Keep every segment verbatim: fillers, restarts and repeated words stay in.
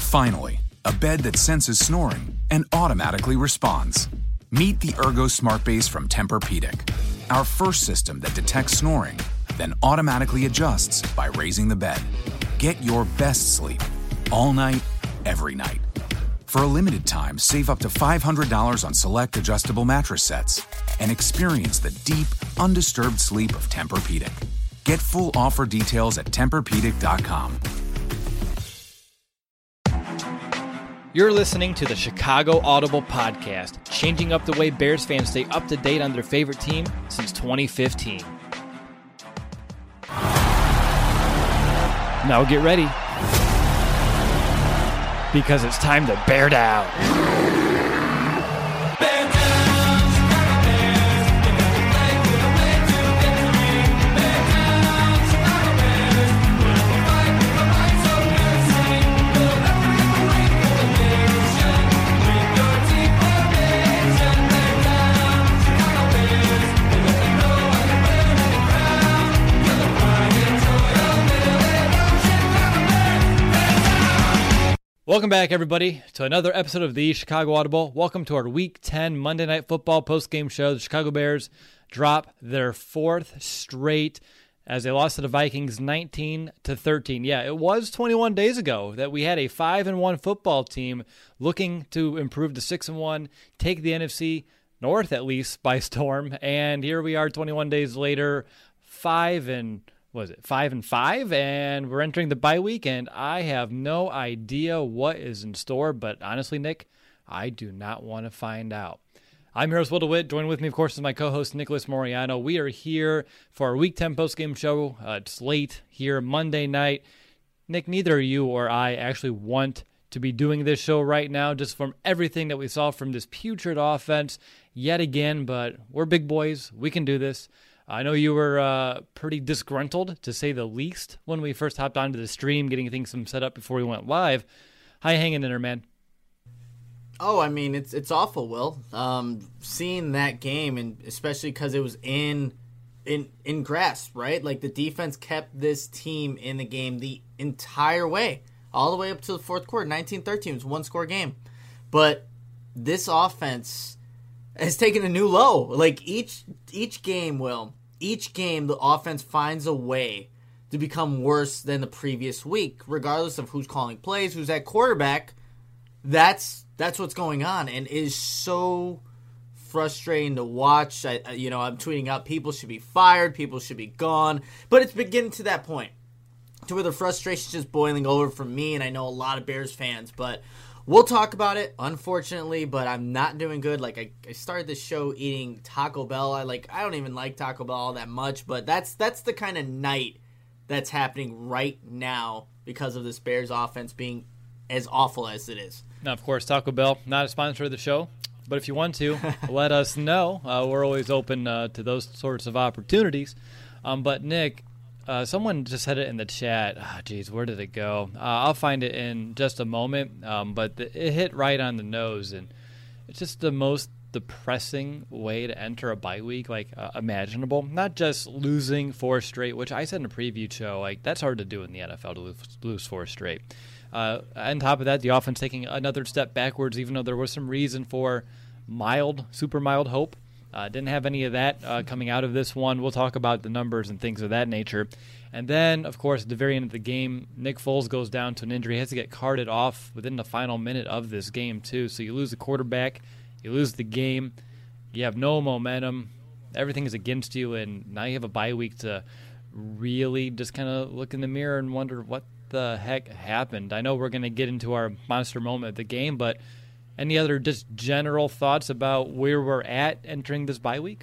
Finally, a bed that senses snoring and automatically responds. Meet the Ergo Smart Base from Tempur-Pedic, our first system that detects snoring, then automatically adjusts by raising the bed. Get your best sleep all night, every night. For a limited time, save up to five hundred dollars on select adjustable mattress sets and experience the deep, undisturbed sleep of Tempur-Pedic. Get full offer details at Tempur Pedic dot com. You're listening to the Chicago Audible Podcast, changing up the way Bears fans stay up to date on their favorite team since twenty fifteen. Now get ready, because it's time to bear down. Welcome back, everybody, to another episode of the Chicago Audible. Welcome to our Week ten Monday Night Football post-game show. The Chicago Bears drop their fourth straight as they lost to the Vikings nineteen to thirteen. Yeah, it was twenty-one days ago that we had a five and one football team looking to improve to six and one, take the N F C North at least by storm. And here we are twenty-one days later, five and what is it, five and five, and we're entering the bye week, and I have no idea what is in store, but honestly, Nick, I do not want to find out. I'm your host, Will DeWitt. Joining with me, of course, is my co-host, Nicholas Moriano. We are here for our Week ten postgame show. Uh, it's late here, Monday night. Nick, neither you or I actually want to be doing this show right now, just from everything that we saw from this putrid offense yet again, but we're big boys. We can do this. I know you were uh, pretty disgruntled, to say the least, when we first hopped onto the stream, getting things some set up before we went live. How you hanging in there, man? Oh, I mean, it's it's awful, Will. Um, seeing that game, and especially because it was in in in grass, right? Like, the defense kept this team in the game the entire way, all the way up to the fourth quarter. nineteen thirteen was a one-score game. But this offense has taken a new low. Like, each each game, Will, each game the offense finds a way to become worse than the previous week, regardless of who's calling plays, who's at quarterback. That's that's what's going on, and it is so frustrating to watch. I, you know, I'm tweeting out people should be fired, people should be gone, but it's beginning to that point to where the frustration's just boiling over for me, and I know a lot of Bears fans, but we'll talk about it, unfortunately, but I'm not doing good. Like, I, I started this show eating Taco Bell. I like I don't even like Taco Bell all that much, but that's that's the kind of night that's happening right now because of this Bears offense being as awful as it is. Now, of course, Taco Bell, not a sponsor of the show, but if you want to, let us know. Uh, we're always open uh, to those sorts of opportunities. Um, but, Nick, Uh, someone just said it in the chat. Ah, geez, where did it go? Uh, I'll find it in just a moment. Um, but the, it hit right on the nose, and it's just the most depressing way to enter a bye week, like uh, imaginable. Not just losing four straight, which I said in a preview show, like that's hard to do in the N F L to lose, lose four straight. Uh, on top of that, the offense taking another step backwards, even though there was some reason for mild, super mild hope. Uh, didn't have any of that uh, coming out of this one. We'll talk about the numbers and things of that nature. And then, of course, at the very end of the game, Nick Foles goes down to an injury. He has to get carted off within the final minute of this game, too. So you lose the quarterback, you lose the game, you have no momentum, everything is against you, and now you have a bye week to really just kind of look in the mirror and wonder what the heck happened. I know we're going to get into our monster moment of the game, but any other just general thoughts about where we're at entering this bye week?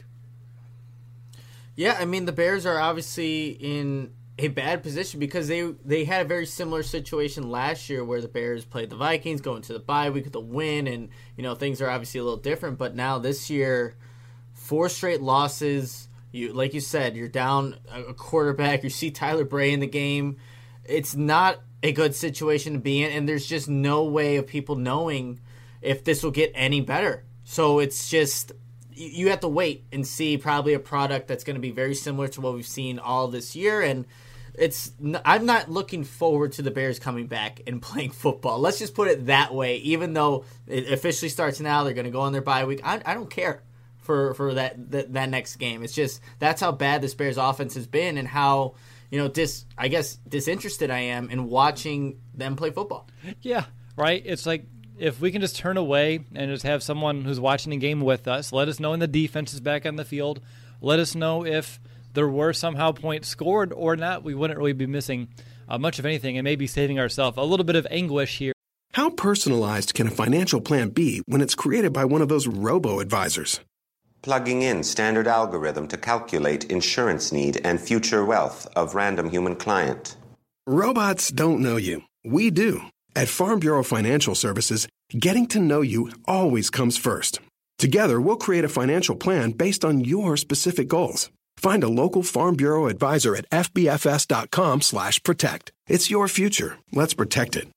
Yeah, I mean, the Bears are obviously in a bad position because they they had a very similar situation last year where the Bears played the Vikings, going to the bye week with a win, and, you know, things are obviously a little different. But now this year, four straight losses. You, like you said, you're down a quarterback. You see Tyler Bray in the game. It's not a good situation to be in, and there's just no way of people knowing if this will get any better. So it's just, you have to wait and see probably a product that's going to be very similar to what we've seen all this year. And it's I'm not looking forward to the Bears coming back and playing football. Let's just put it that way. Even though it officially starts now, they're going to go on their bye week. I, I don't care for for that, that that next game. It's just that's how bad this Bears offense has been, and how you know dis I guess disinterested I am in watching them play football. Yeah, right. It's like if we can just turn away and just have someone who's watching the game with us, let us know when the defense is back on the field. Let us know if there were somehow points scored or not. We wouldn't really be missing uh, much of anything and maybe saving ourselves a little bit of anguish here. How personalized can a financial plan be when it's created by one of those robo-advisors? Plugging in standard algorithm to calculate insurance need and future wealth of random human client. Robots don't know you. We do. At Farm Bureau Financial Services, getting to know you always comes first. Together, we'll create a financial plan based on your specific goals. Find a local Farm Bureau advisor at f b f s dot com slash protect. It's your future. Let's protect it.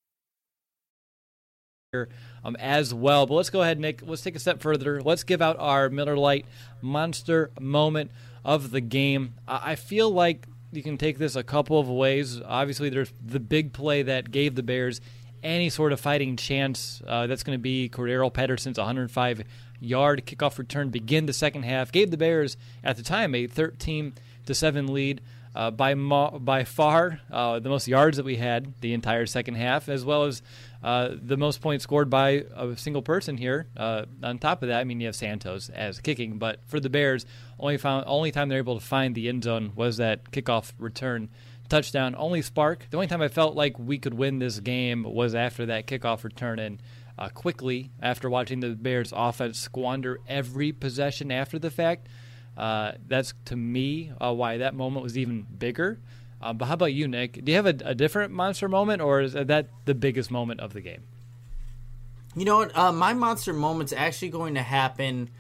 Um, as well. But let's go ahead, Nick. Let's take a step further. Let's give out our Miller Lite monster moment of the game. I feel like you can take this a couple of ways. Obviously, there's the big play that gave the Bears any sort of fighting chance. Uh, that's going to be Cordero Patterson's one hundred five yard kickoff return begin the second half. Gave the Bears, at the time, a thirteen to seven lead. Uh, by mo- by far uh, the most yards that we had the entire second half, as well as uh, the most points scored by a single person here. Uh, on top of that, I mean, you have Santos as kicking, but for the Bears, only found only time they're able to find the end zone was that kickoff return touchdown. Only spark. The only time I felt like we could win this game was after that kickoff return, and uh, quickly after watching the Bears offense squander every possession after the fact. Uh, that's, to me, uh, why that moment was even bigger. Uh, but how about you, Nick? Do you have a, a different monster moment, or is that the biggest moment of the game? You know what? Uh, my monster moment's actually going to happen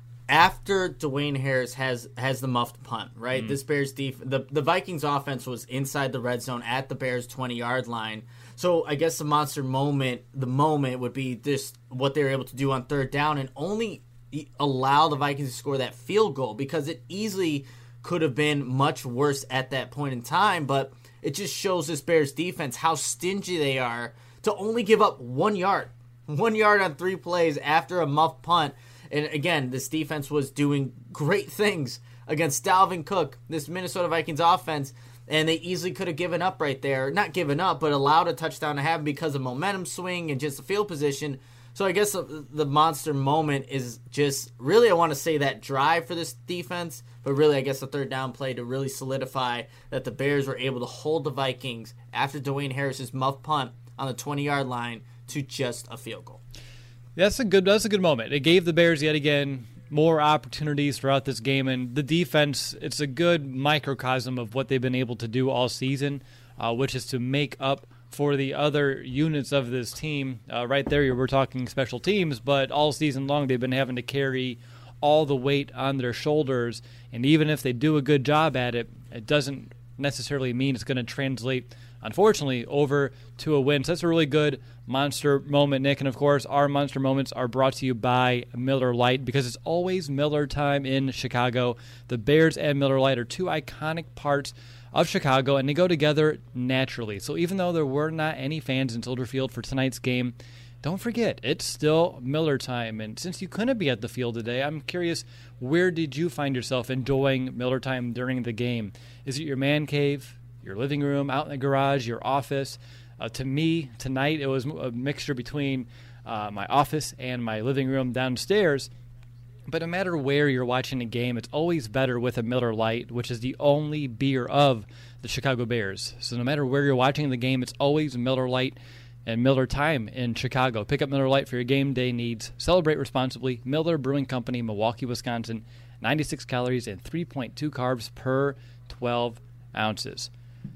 after Dwayne Harris has, has the muffed punt, right? Mm. This Bears def- the, the Vikings offense was inside the red zone at the Bears' twenty-yard line. So I guess the monster moment, the moment would be just what they were able to do on third down and only allow the Vikings to score that field goal, because it easily could have been much worse at that point in time. But it just shows this Bears defense how stingy they are to only give up one yard, one yard on three plays after a muffed punt. And again, this defense was doing great things against Dalvin Cook, this Minnesota Vikings offense, and they easily could have given up right there. Not given up, but allowed a touchdown to happen because of momentum swing and just the field position. So I guess the, the monster moment is just really, I want to say, that drive for this defense, but really I guess the third down play to really solidify that the Bears were able to hold the Vikings after Dwayne Harris's muff punt on the twenty-yard line to just a field goal. That's a good that's a good moment. It gave the Bears yet again more opportunities throughout this game, and the defense, it's a good microcosm of what they've been able to do all season, uh, which is to make up for the other units of this team. Uh, right there, we're talking special teams, but all season long they've been having to carry all the weight on their shoulders, and even if they do a good job at it, it doesn't necessarily mean it's going to translate, unfortunately, over to a win. So that's a really good monster moment, Nick, and of course, our monster moments are brought to you by Miller Lite, because it's always Miller time in Chicago. The Bears and Miller Lite are two iconic parts of Chicago, and they go together naturally. So even though there were not any fans in Soldier Field for tonight's game, don't forget, it's still Miller time. And since you couldn't be at the field today, I'm curious, where did you find yourself enjoying Miller time during the game? Is it your man cave, your living room, out in the garage, your office? Uh, to me, tonight, it was a mixture between uh, my office and my living room downstairs. But no matter where you're watching a game, it's always better with a Miller Lite, which is the only beer of the Chicago Bears. So no matter where you're watching the game, it's always Miller Lite and Miller time in Chicago. Pick up Miller Lite for your game day needs. Celebrate responsibly. Miller Brewing Company, Milwaukee, Wisconsin. ninety-six calories and three point two carbs per twelve ounces.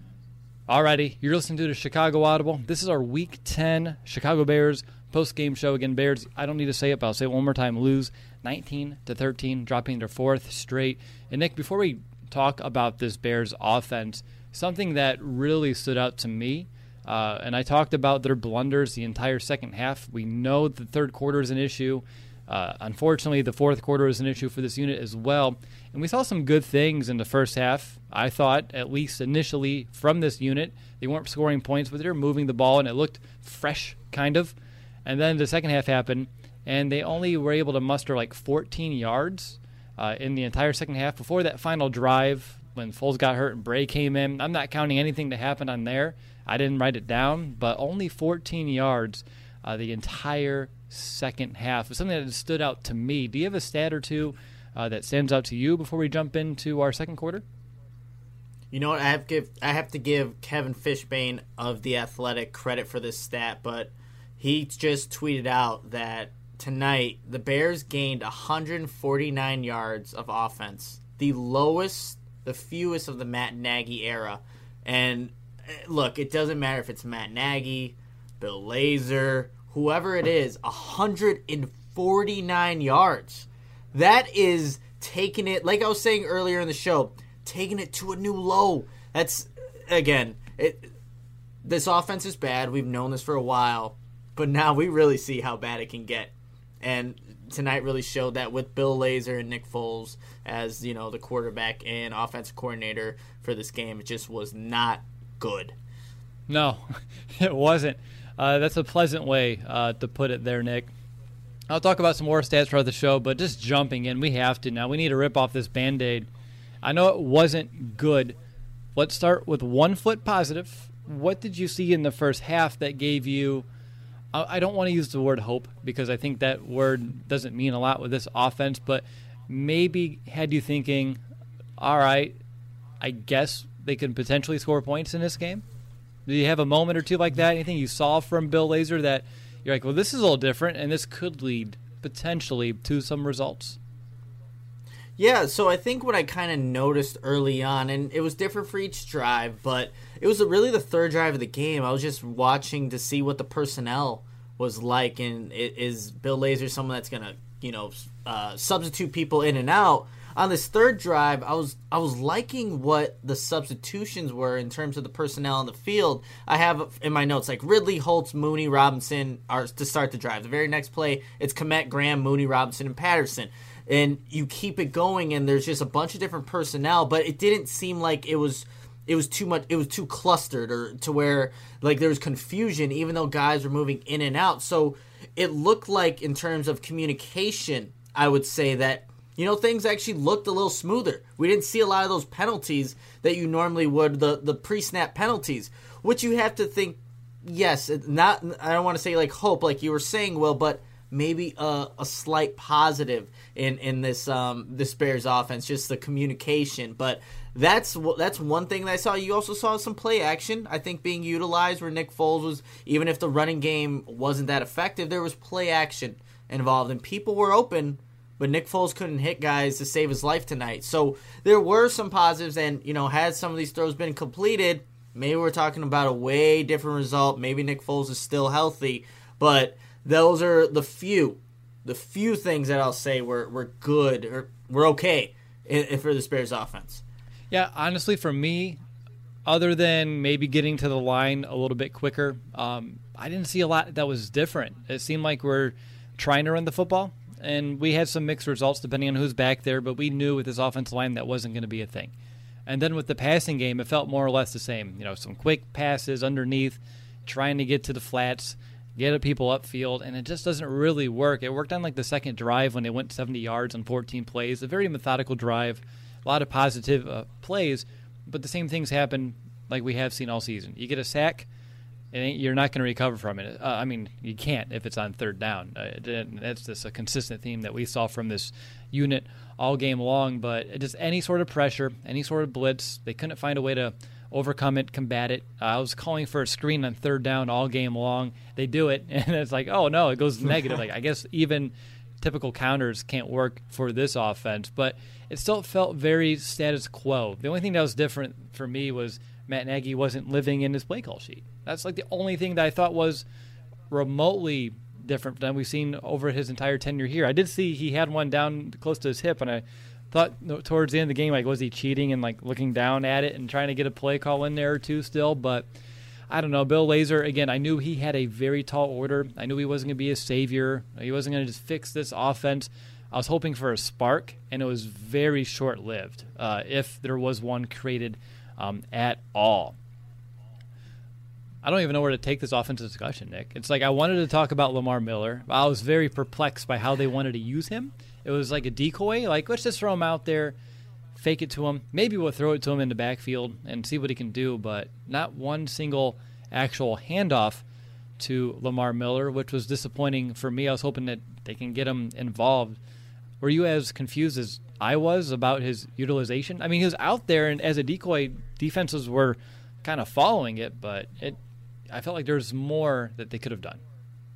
Alrighty, you're listening to the Chicago Audible. This is our Week ten Chicago Bears post-game show. Again, Bears, I don't need to say it, but I'll say it one more time. Lose nineteen to thirteen, dropping their fourth straight. And Nick, before we talk about this Bears offense, something that really stood out to me, uh, and I talked about their blunders the entire second half. We know the third quarter is an issue. Uh, unfortunately, the fourth quarter was an issue for this unit as well. And we saw some good things in the first half, I thought, at least initially from this unit. They weren't scoring points, but they were moving the ball, and it looked fresh, kind of. And then the second half happened, and they only were able to muster like fourteen yards uh, in the entire second half before that final drive when Foles got hurt and Bray came in. I'm not counting anything that happened on there. I didn't write it down, but only fourteen yards uh, the entire second half was something that stood out to me. Do you have a stat or two uh, that stands out to you before we jump into our second quarter? You know what? I have to give I have to give Kevin Fishbane of The Athletic credit for this stat, but he just tweeted out that tonight the Bears gained one hundred forty-nine yards of offense, the lowest, the fewest of the Matt Nagy era. And look, it doesn't matter if it's Matt Nagy, Bill Lazor, whoever it is, one hundred forty-nine yards. That is taking it, like I was saying earlier in the show, taking it to a new low. That's, again, it. This offense is bad. We've known this for a while, but now we really see how bad it can get. And tonight really showed that with Bill Lazor and Nick Foles as, you know, the quarterback and offensive coordinator for this game. It just was not good. No, it wasn't. Uh, that's a pleasant way uh, to put it there, Nick. I'll talk about some more stats throughout the show, but just jumping in, we have to now. We need to rip off this Band-Aid. I know it wasn't good. Let's start with one foot positive. What did you see in the first half that gave you, I don't want to use the word hope because I think that word doesn't mean a lot with this offense, but maybe had you thinking, all right, I guess they could potentially score points in this game? Do you have a moment or two like that? Anything you saw from Bill Lazor that you're like, well, this is a little different, and this could lead potentially to some results? Yeah, so I think what I kind of noticed early on, and it was different for each drive, but it was really the third drive of the game. I was just watching to see what the personnel was like, and is Bill Lazor someone that's going to, you know, uh, substitute people in and out? On this third drive, I was I was liking what the substitutions were in terms of the personnel on the field. I have in my notes like Ridley, Holtz, Mooney, Robinson are to start the drive. The very next play, it's Kmet, Graham, Mooney, Robinson, and Patterson. And you keep it going, and there's just a bunch of different personnel, but it didn't seem like it was it was too much. It was too clustered, or to where like there was confusion, even though guys were moving in and out. So it looked like, in terms of communication, I would say that, you know, things actually looked a little smoother. We didn't see a lot of those penalties that you normally would, the the pre-snap penalties, which you have to think, yes, not. I don't want to say like hope, like you were saying, Will, but maybe a, a slight positive in in this um, this Bears offense, just the communication. But that's that's one thing that I saw. You also saw some play action, I think, being utilized where Nick Foles was, even if the running game wasn't that effective, there was play action involved, and people were open, but Nick Foles couldn't hit guys to save his life tonight. So there were some positives, and, you know, had some of these throws been completed, maybe we're talking about a way different result. Maybe Nick Foles is still healthy, but those are the few, the few things that I'll say were, were good or were okay in, in for the Bears offense. Yeah, honestly, for me, other than maybe getting to the line a little bit quicker, um, I didn't see a lot that was different. It seemed like we're trying to run the football, and we had some mixed results depending on who's back there, but we knew with this offensive line that wasn't going to be a thing. And then with the passing game, it felt more or less the same. You know, some quick passes underneath, trying to get to the flats, get people upfield, and it just doesn't really work. It worked on like the second drive when they went seventy yards on fourteen plays, a very methodical drive, a lot of positive uh, plays, but the same things happen like we have seen all season. You get a sack, and you're not going to recover from it. Uh, I mean, you can't if it's on third down. Uh, it, that's just a consistent theme that we saw from this unit all game long, but just any sort of pressure, any sort of blitz, they couldn't find a way to overcome it, combat it. Uh, I was calling for a screen on third down all game long. They do it, and it's like, oh, no, it goes negative. Like, I guess even typical counters can't work for this offense, but it still felt very status quo. The only thing that was different for me was Matt Nagy wasn't living in his play call sheet. That's like the only thing that I thought was remotely different than we've seen over his entire tenure here. I did see he had one down close to his hip, and I thought towards the end of the game, like, was he cheating and like looking down at it and trying to get a play call in there or two still? But I don't know. Bill Lazor, again, I knew he had a very tall order. I knew he wasn't going to be a savior. He wasn't going to just fix this offense. I was hoping for a spark, and it was very short-lived, uh, if there was one created um, at all. I don't even know where to take this offensive discussion, Nick. It's like I wanted to talk about Lamar Miller. I was very perplexed by how they wanted to use him. It was like a decoy. Like, let's just throw him out there, fake it to him. Maybe we'll throw it to him in the backfield and see what he can do, but not one single actual handoff to Lamar Miller, which was disappointing for me. I was hoping that they can get him involved. Were you as confused as I was about his utilization? I mean, he was out there, and as a decoy, defenses were kind of following it, but it, I felt like there's more that they could have done.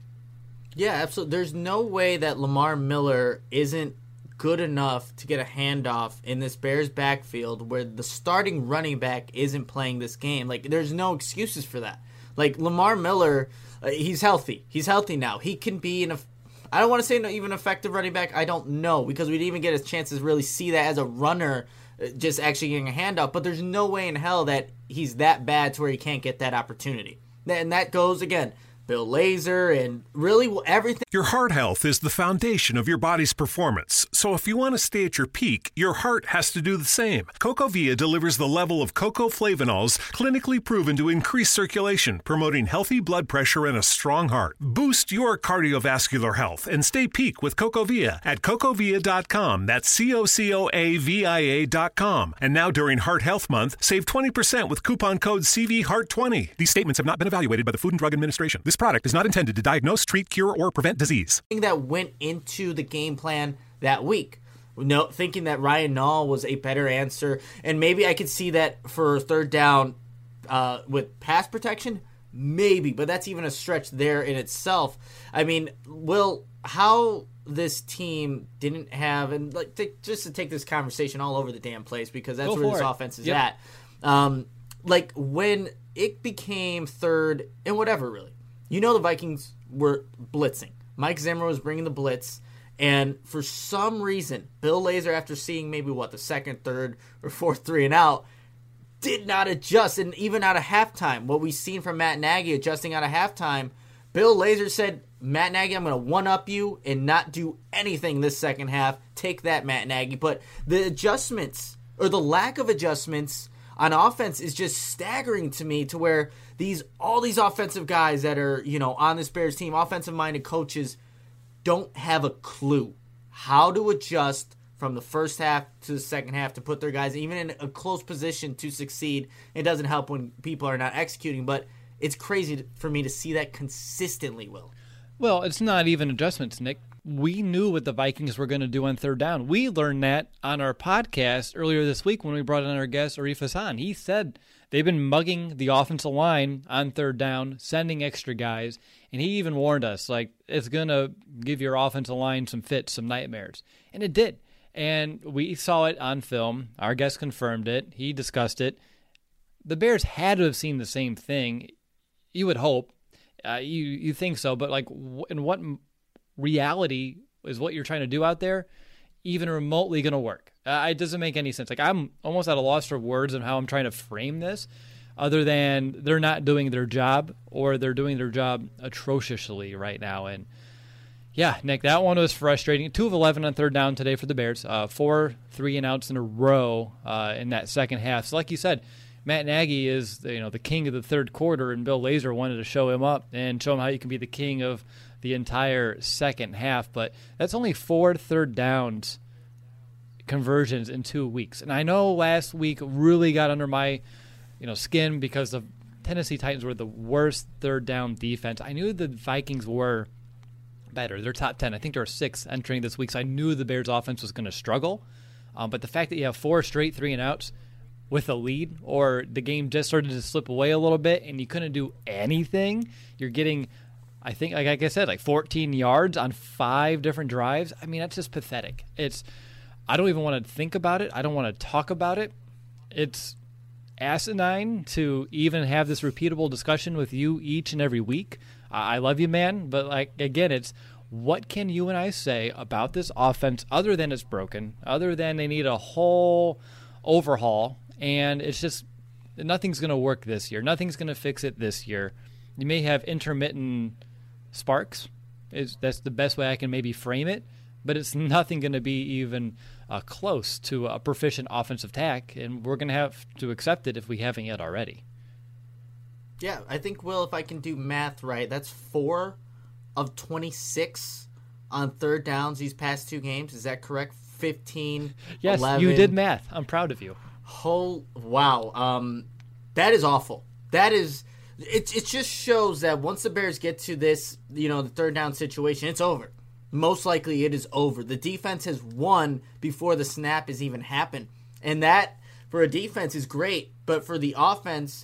Yeah, absolutely. There's no way that Lamar Miller isn't good enough to get a handoff in this Bears backfield where the starting running back isn't playing this game. Like, there's no excuses for that. Like, Lamar Miller, uh, he's healthy. He's healthy now. He can be in a I don't want to say no, even effective running back. I don't know, because we didn't even get a chance to really see that as a runner, just actually getting a handoff. But there's no way in hell that he's that bad to where he can't get that opportunity. And that goes, again, Bill Lazor and really everything. Your heart health is the foundation of your body's performance. So if you want to stay at your peak, your heart has to do the same. CocoVia delivers the level of cocoa flavanols clinically proven to increase circulation, promoting healthy blood pressure and a strong heart. Boost your cardiovascular health and stay peak with CocoVia at cocovia dot com. That's C O C O A V I A dot com. And now during Heart Health Month, save twenty percent with coupon code C V Heart twenty. These statements have not been evaluated by the Food and Drug Administration. This product is not intended to diagnose, treat, cure, or prevent disease. That went into the game plan that week. No, thinking that Ryan Nall was a better answer, and maybe I could see that for third down uh, with pass protection, maybe, but that's even a stretch there in itself. I mean, Will, how this team didn't have, and like to, just to take this conversation all over the damn place, because that's Go where this it. offense is Yep. at. Um, like when it became third and whatever, really. You know the Vikings were blitzing. Mike Zimmer was bringing the blitz, and for some reason, Bill Lazor, after seeing maybe, what, the second, third, or fourth three and out, did not adjust. And even out of halftime, what we've seen from Matt Nagy adjusting out of halftime, Bill Lazor said, Matt Nagy, I'm going to one-up you and not do anything this second half. Take that, Matt Nagy. But the adjustments, or the lack of adjustments on offense, is just staggering to me, to where these all these offensive guys that are, you know, on this Bears team, offensive-minded coaches, don't have a clue how to adjust from the first half to the second half to put their guys even in a close position to succeed. It doesn't help when people are not executing, but it's crazy for me to see that consistently, Will. Well, it's not even adjustments, Nick. We knew what the Vikings were going to do on third down. We learned that on our podcast earlier this week when we brought in our guest, Arif Hassan. He said they've been mugging the offensive line on third down, sending extra guys, and he even warned us, like, it's going to give your offensive line some fits, some nightmares. And it did. And we saw it on film. Our guest confirmed it. He discussed it. The Bears had to have seen the same thing. You would hope. Uh, you, you think so, but, like, in what reality is what you're trying to do out there even remotely going to work? Uh, it doesn't make any sense. Like, I'm almost at a loss for words on how I'm trying to frame this, other than they're not doing their job, or they're doing their job atrociously right now. And yeah, Nick, that one was frustrating. Two of eleven on third down today for the Bears. Uh, four three and outs in a row uh, in that second half. So, like you said, Matt Nagy is, you know, the king of the third quarter, and Bill Lazor wanted to show him up and show him how you can be the king of the entire second half. But that's only four third downs conversions in two weeks. And I know last week really got under my, you know, skin because the Tennessee Titans were the worst third down defense. I knew the Vikings were better. They're top ten. I think they're sixth entering this week, so I knew the Bears offense was going to struggle. Um, but the fact that you have four straight three and outs with a lead, or the game just started to slip away a little bit and you couldn't do anything, you're getting, I think, like, like I said, like fourteen yards on five different drives. I mean, that's just pathetic. It's, I don't even want to think about it. I don't want to talk about it. It's asinine to even have this repeatable discussion with you each and every week. I love you, man, but, like, again, it's what can you and I say about this offense other than it's broken, other than they need a whole overhaul, and it's just nothing's going to work this year. Nothing's going to fix it this year. You may have intermittent sparks. Is that's the best way I can maybe frame it, but it's nothing going to be even uh, close to a proficient offensive tack, and we're going to have to accept it if we haven't yet already. Yeah, I think, Will, if I can do math right, that's four of twenty-six on third downs these past two games. Is that correct? fifteen, yes, eleven. You did math. I'm proud of you. Whole wow, um, that is awful. That is, it. It just shows that once the Bears get to this, you know, the third down situation, it's over. Most likely, it is over. The defense has won before the snap has even happened, and that for a defense is great. But for the offense,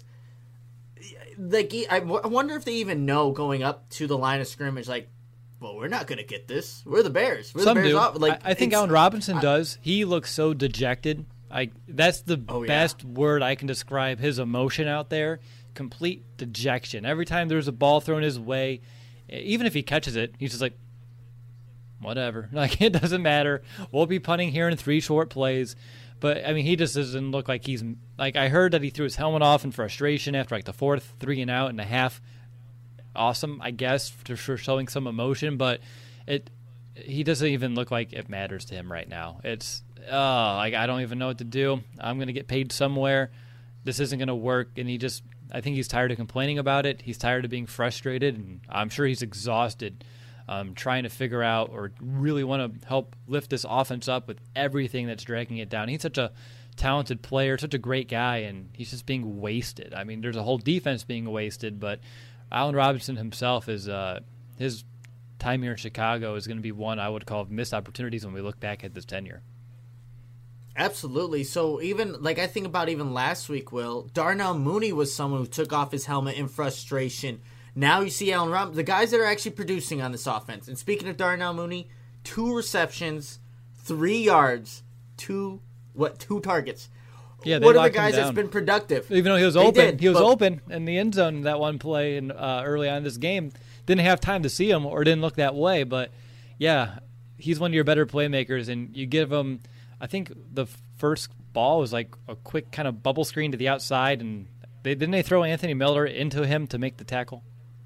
like I wonder if they even know going up to the line of scrimmage, like, well, we're not going to get this. We're the Bears. We're Some the Bears. do. Off. Like, I, I think Allen Robinson I, does. He looks so dejected. I that's the oh, best yeah. word I can describe his emotion out there. Complete dejection. Every time there's a ball thrown his way, even if he catches it, he's just like, whatever. Like, it doesn't matter. We'll be punting here in three short plays. But, I mean, he just doesn't look like he's – like, I heard that he threw his helmet off in frustration after, like, the fourth three and out and a half. Awesome, I guess, for showing some emotion. But it he doesn't even look like it matters to him right now. It's – oh, like, I don't even know what to do. I'm going to get paid somewhere. This isn't going to work. And he just – I think he's tired of complaining about it. He's tired of being frustrated. And I'm sure he's exhausted um, trying to figure out or really want to help lift this offense up with everything that's dragging it down. He's such a talented player, such a great guy, and he's just being wasted. I mean, there's a whole defense being wasted, but Allen Robinson himself is uh, his time here in Chicago is going to be one I would call missed opportunities when we look back at this tenure. Absolutely. So even, like, I think about even last week, Will, Darnell Mooney was someone who took off his helmet in frustration. Now you see Allen Robinson, the guys that are actually producing on this offense. And speaking of Darnell Mooney, two receptions, three yards, two what two targets. Yeah, they what are the locked guys him that's down. been productive? Even though he was They open, did, he was but- open in the end zone in that one play and uh, early on in this game. Didn't have time to see him or didn't look that way, but yeah, he's one of your better playmakers, and you give him. I think the first ball was like a quick kind of bubble screen to the outside, and they didn't they throw Anthony Miller into him to make the tackle.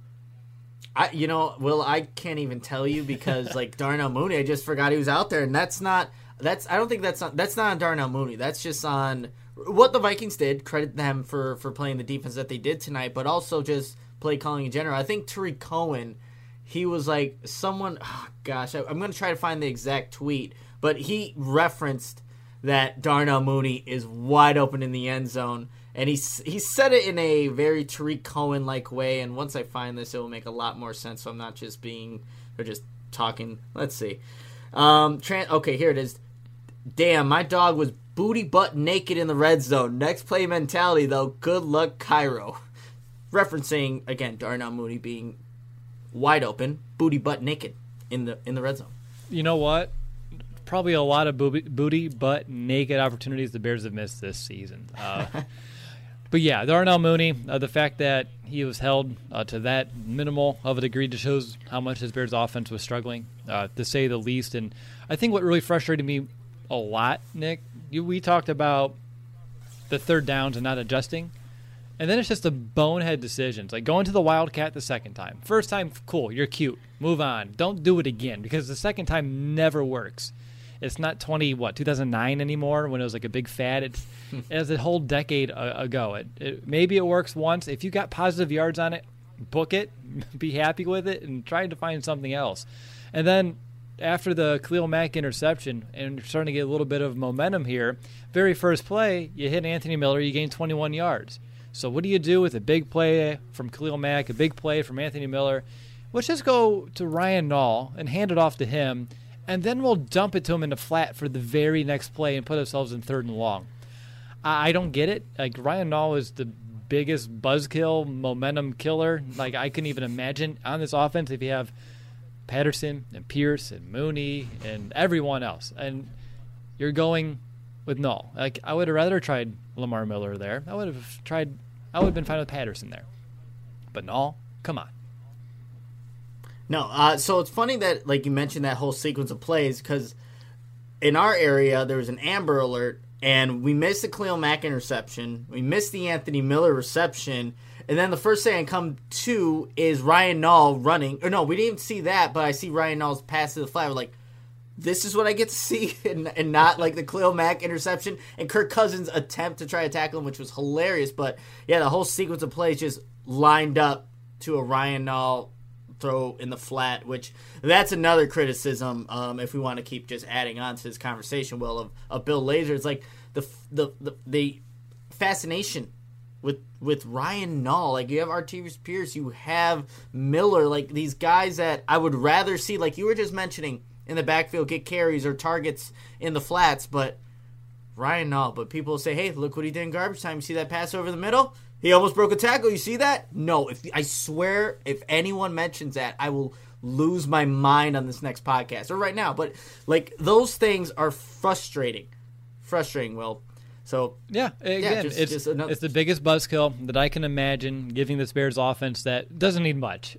I, you know, Will, I can't even tell you because like Darnell Mooney, I just forgot he was out there, and that's not. That's I don't think that's on, that's not on Darnell Mooney. That's just on what the Vikings did. Credit them for, for playing the defense that they did tonight, but also just play calling in general. I think Tariq Cohen, he was like someone. Oh, gosh, I, I'm going to try to find the exact tweet, but he referenced that Darnell Mooney is wide open in the end zone, and he he said it in a very Tariq Cohen like way. And once I find this, it will make a lot more sense. So I'm not just being or just talking. Let's see. Um, tran- okay, here it is. Damn, my dog was booty butt naked in the red zone. Next play mentality, though. Good luck, Cairo. Referencing, again, Darnell Mooney being wide open, booty butt naked in the in the red zone. You know what? Probably a lot of booty, booty butt naked opportunities the Bears have missed this season. Uh, but yeah, Darnell Mooney, uh, the fact that he was held uh, to that minimal of a degree just shows how much his Bears offense was struggling, uh, to say the least. And I think what really frustrated me a lot, Nick, you, we talked about the third downs and not adjusting. And then it's just the bonehead decisions, like going to the Wildcat the second time. First time, cool, you're cute. Move on. Don't do it again because the second time never works. It's not twenty what two thousand nine anymore when it was like a big fad. It's it was a whole decade ago. It, it maybe it works once. If you got positive yards on it, book it, be happy with it, and try to find something else. And then after the Khalil Mack interception, and you're starting to get a little bit of momentum here, very first play, you hit Anthony Miller, you gain twenty-one yards. So what do you do with a big play from Khalil Mack, a big play from Anthony Miller? Let's just go to Ryan Nall and hand it off to him, and then we'll dump it to him in the flat for the very next play and put ourselves in third and long. I, I don't get it. Like, Ryan Nall is the biggest buzzkill, momentum killer. Like, I couldn't even imagine on this offense if you have Patterson and Pierce and Mooney and everyone else. And you're going with Nall. Like, I would have rather tried Lamar Miller there. I would have tried – I would have been fine with Patterson there. But Nall, come on. No, uh, so it's funny that, like, you mentioned that whole sequence of plays because in our area there was an Amber Alert And we missed the Khalil Mack interception. We missed the Anthony Miller reception. And then the first thing I come to is Ryan Nall running. Or no, we didn't even see that, but I see Ryan Nall's pass to the flat. We're like, this is what I get to see, and, and not like the Khalil Mack interception and Kirk Cousins' attempt to try to tackle him, which was hilarious. But yeah, the whole sequence of plays just lined up to a Ryan Nall throw in the flat, which that's another criticism. Um, if we want to keep just adding on to this conversation, Will, of, of Bill Lazor, it's like the the the, the fascination with with Ryan Nall. Like, you have Artavis Pierce, you have Miller, like these guys that I would rather see, like you were just mentioning, in the backfield, get carries or targets in the flats. But Ryan Nall, but people say, hey, look what he did in garbage time. You see that pass over the middle? He almost broke a tackle. You see that? No. If I swear, if anyone mentions that, I will lose my mind on this next podcast or right now. But like, those things are frustrating, frustrating. Will. So yeah, again, yeah, just, it's just another... it's the biggest buzzkill that I can imagine giving this Bears offense that doesn't need much.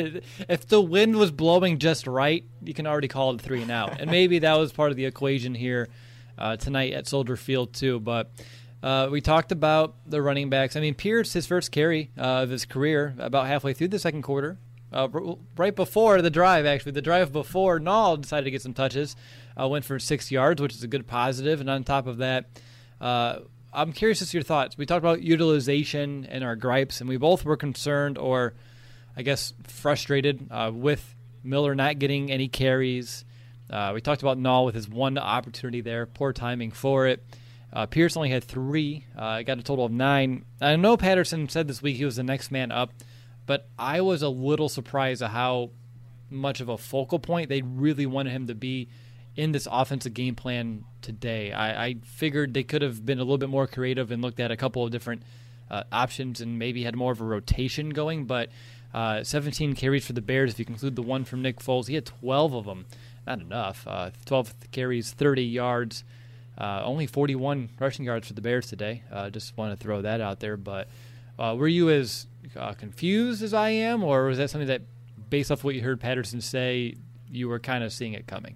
If the wind was blowing just right, you can already call it three and out. And maybe that was part of the equation here uh, tonight at Soldier Field too. But uh, we talked about the running backs. I mean, Pierce, his first carry uh, of his career, about halfway through the second quarter, uh, right before the drive, actually, the drive before Nall decided to get some touches, uh, went for six yards, which is a good positive. And on top of that, Uh, I'm curious as to your thoughts. We talked about utilization and our gripes, and we both were concerned or, I guess, frustrated uh, with Miller not getting any carries. Uh, we talked about Nall with his one opportunity there, poor timing for it. Uh, Pierce only had three. Uh, got a total of nine. I know Patterson said this week he was the next man up, but I was a little surprised at how much of a focal point they really wanted him to be in this offensive game plan today. I, I figured they could have been a little bit more creative and looked at a couple of different uh, options and maybe had more of a rotation going, but uh, seventeen carries for the Bears, if you conclude the one from Nick Foles. He had twelve of them. Not enough. Uh, twelve carries, thirty yards, uh, only forty-one rushing yards for the Bears today. Uh, just want to throw that out there. But uh, were you as uh, confused as I am, or was that something that, based off what you heard Patterson say, you were kind of seeing it coming?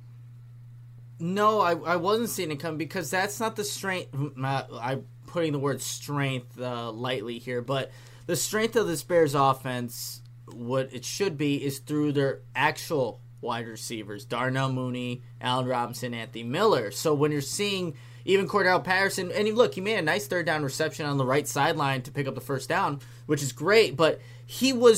No, I, I wasn't seeing it come, because that's not the strength. I'm putting the word strength uh, lightly here, but the strength of this Bears offense, what it should be, is through their actual wide receivers, Darnell Mooney, Allen Robinson, Anthony Miller. So when you're seeing even Cordell Patterson, and he, look, he made a nice third down reception on the right sideline to pick up the first down, which is great, but he was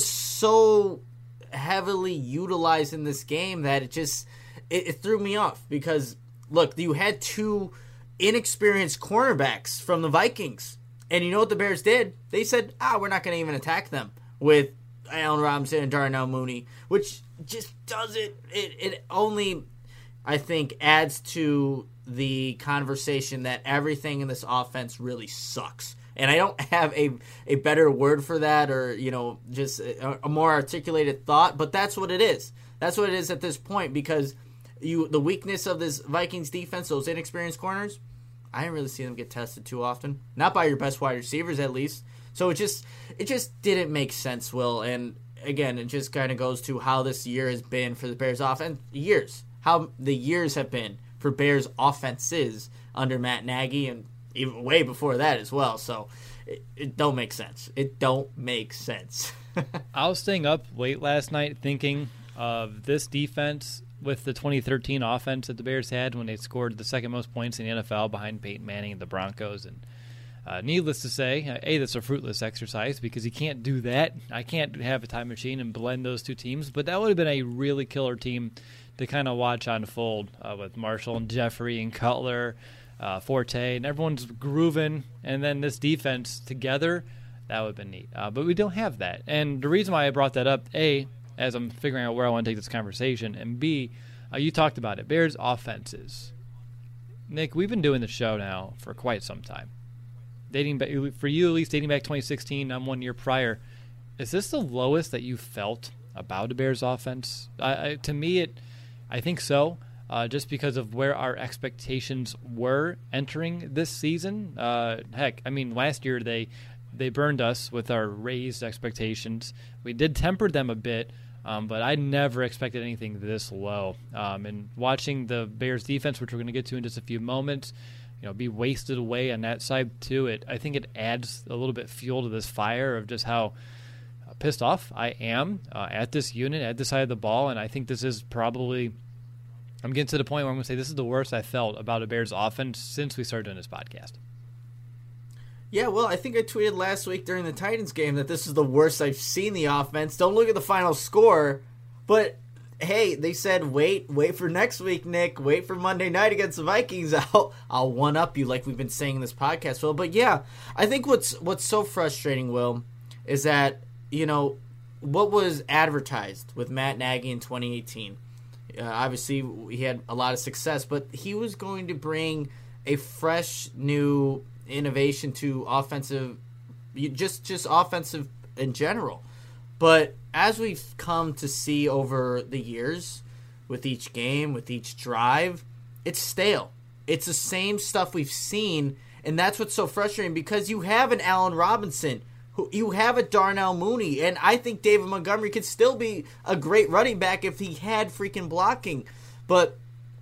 so heavily utilized in this game that it just... It, it threw me off, because, look, you had two inexperienced cornerbacks from the Vikings. And you know what the Bears did? They said, ah, we're not going to even attack them with Allen Robinson and Darnell Mooney, which just doesn't, it, it only, I think, adds to the conversation that everything in this offense really sucks. And I don't have a, a better word for that, or, you know, just a, a more articulated thought, but that's what it is. That's what it is at this point, because You, the weakness of this Vikings defense, those inexperienced corners, I didn't really see them get tested too often. Not by your best wide receivers, at least. So it just it just didn't make sense, Will. And again, it just kind of goes to how this year has been for the Bears offense. Years. How the years have been for Bears offenses under Matt Nagy, and even way before that as well. So it, it don't make sense. It don't make sense. I was staying up late last night thinking of this defense with the twenty thirteen offense that the Bears had when they scored the second most points in the N F L behind Peyton Manning and the Broncos. And uh, needless to say, uh, A, that's a fruitless exercise, because you can't do that. I can't have a time machine and blend those two teams, but that would have been a really killer team to kind of watch unfold uh, with Marshall and Jeffrey and Cutler, uh, Forte, and everyone's grooving. And then this defense together, that would have been neat. Uh, but we don't have that. And the reason why I brought that up, A, as I'm figuring out where I want to take this conversation, and B, uh, you talked about it, Bears offenses. Nick, we've been doing the show now for quite some time. Dating back, for you at least, dating back twenty sixteen, I'm one year prior. Is this the lowest that you felt about a Bears offense? I, I, to me, it, I think so, uh, just because of where our expectations were entering this season. Uh, heck, I mean, last year they they burned us with our raised expectations. We did temper them a bit, Um, but I never expected anything this low. Um, and watching the Bears defense, which we're going to get to in just a few moments, you know, be wasted away on that side too. It I think it adds a little bit fuel to this fire of just how pissed off I am uh, at this unit, at this side of the ball, and I think this is probably, I'm getting to the point where I'm going to say this is the worst I felt about a Bears offense since we started doing this podcast. Yeah, well, I think I tweeted last week during the Titans game that this is the worst I've seen the offense. Don't look at the final score, but hey, they said wait, wait for next week, Nick. Wait for Monday night against the Vikings. I'll I'll one up you like we've been saying in this podcast, Will. But yeah, I think what's what's so frustrating, Will, is that, you know, what was advertised with Matt Nagy in twenty eighteen. Uh, obviously, he had a lot of success, but he was going to bring a fresh, new innovation to offensive, just just offensive in general. But as we've come to see over the years, with each game, with each drive, it's stale. It's the same stuff we've seen, and that's what's so frustrating, because you have an Allen Robinson, who you have a Darnell Mooney, and I think David Montgomery could still be a great running back if he had freaking blocking. But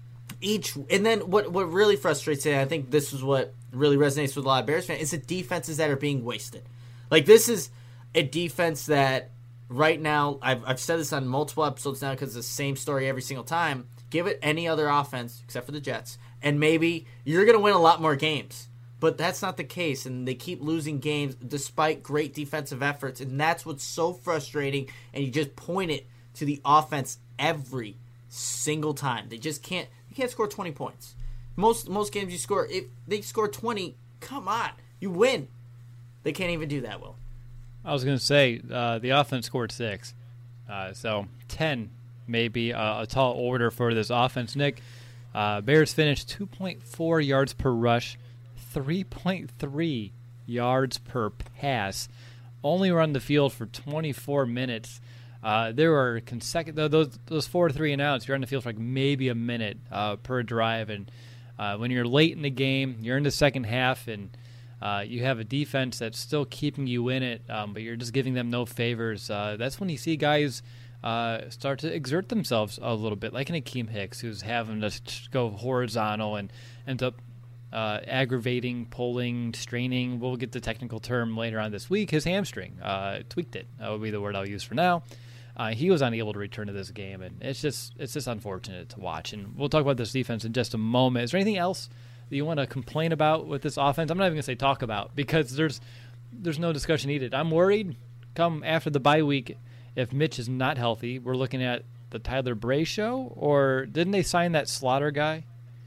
each, and then what what really frustrates me, and I think this is what really resonates with a lot of Bears fans, is the defenses that are being wasted. Like, this is a defense that right now, I've I've said this on multiple episodes now because it's the same story every single time. Give it any other offense except for the Jets, and maybe you're going to win a lot more games. But that's not the case, and they keep losing games despite great defensive efforts, and that's what's so frustrating, and you just point it to the offense every single time. They just can't you can't score twenty points. Most most games you score, if they score twenty, come on, you win. They can't even do that, Will. I was going to say, uh, the offense scored six, uh, so ten may be a, a tall order for this offense. Nick, uh, Bears finished two point four yards per rush, three point three yards per pass, only run the field for twenty-four minutes. Uh, there were consecutive those those four three and outs. You're on the field for like maybe a minute uh, per drive, and uh, when you're late in the game, you're in the second half, and uh, you have a defense that's still keeping you in it, um, but you're just giving them no favors. Uh, that's when you see guys uh, start to exert themselves a little bit, like an Akeem Hicks, who's having to go horizontal and ends up Uh, aggravating, pulling, straining. We'll get the technical term later on this week. His hamstring uh, tweaked it. That would be the word I'll use for now. Uh, he was unable to return to this game, and it's just it's just unfortunate to watch. And we'll talk about this defense in just a moment. Is there anything else that you want to complain about with this offense? I'm not even going to say talk about, because there's there's no discussion needed. I'm worried come after the bye week if Mitch is not healthy. We're looking at the Tyler Bray show, or didn't they sign that Slaughter guy?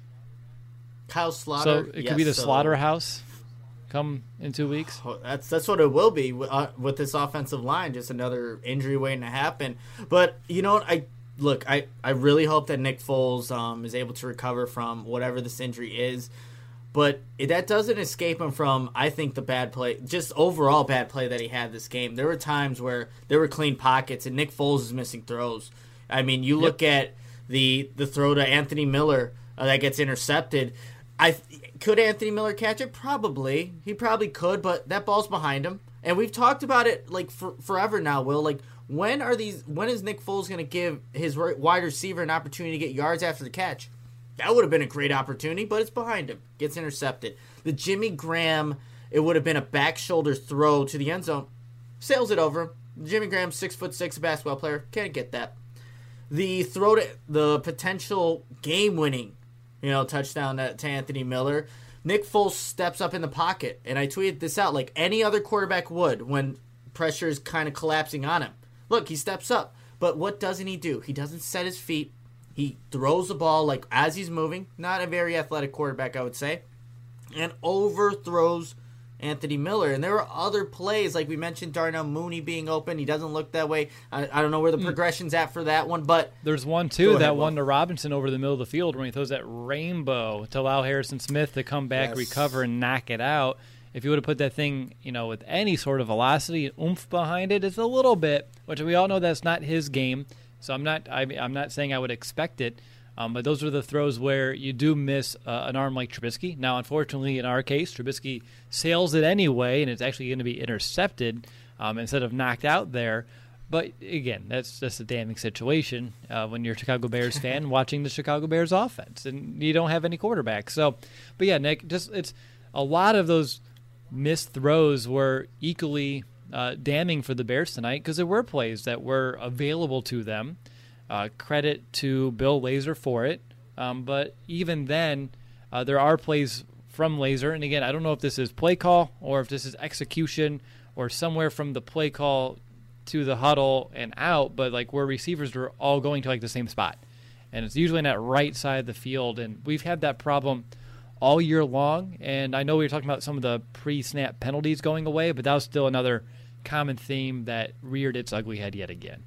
Kyle Slaughter. So it yes, could be the so, Slaughterhouse come in two weeks. That's that's what it will be uh, with this offensive line. Just another injury waiting to happen. But you know what? I look. I, I really hope that Nick Foles um, is able to recover from whatever this injury is. But that doesn't escape him from, I think, the bad play, just overall bad play that he had this game. There were times where there were clean pockets, and Nick Foles is missing throws. I mean, you look yep. at the the throw to Anthony Miller uh, that gets intercepted. I could Anthony Miller catch it? Probably. He probably could, but that ball's behind him. And we've talked about it like for, forever now, Will. Like, when are these? When is Nick Foles going to give his wide receiver an opportunity to get yards after the catch? That would have been a great opportunity, but it's behind him. Gets intercepted. The Jimmy Graham, it would have been a back shoulder throw to the end zone. Sails it over. Jimmy Graham, six foot six, a basketball player. Can't get that. The throw to the potential game-winning, you know, touchdown to, to Anthony Miller. Nick Foles steps up in the pocket, and I tweeted this out like any other quarterback would when pressure is kind of collapsing on him. Look, he steps up, but what doesn't he do? He doesn't set his feet. He throws the ball like as he's moving. Not a very athletic quarterback, I would say, and overthrows Anthony Miller. And there were other plays, like we mentioned, Darnell Mooney being open. He doesn't look that way. I, I don't know where the progression's at for that one, but there's one too ahead, that Will. one to Robinson over the middle of the field when he throws that rainbow to allow Harrison Smith to come back, yes. recover, and knock it out. If you would have put that thing, you know, with any sort of velocity and oomph behind it, it's a little bit, which we all know that's not his game. So I'm not, I, I'm not saying I would expect it. Um, but those are the throws where you do miss uh, an arm like Trubisky. Now, unfortunately, in our case, Trubisky sails it anyway, and it's actually going to be intercepted um, instead of knocked out there. But again, that's just a damning situation uh, when you're a Chicago Bears fan watching the Chicago Bears offense and you don't have any quarterback. So, but yeah, Nick, just it's a lot of those missed throws were equally uh, damning for the Bears tonight because there were plays that were available to them. Uh, credit to Bill Lazor for it. Um, but even then, uh, there are plays from Lazor. And again, I don't know if this is play call or if this is execution or somewhere from the play call to the huddle and out, but like where receivers are all going to like the same spot. And it's usually in that right side of the field. And we've had that problem all year long. And I know we were talking about some of the pre-snap penalties going away, but that was still another common theme that reared its ugly head yet again.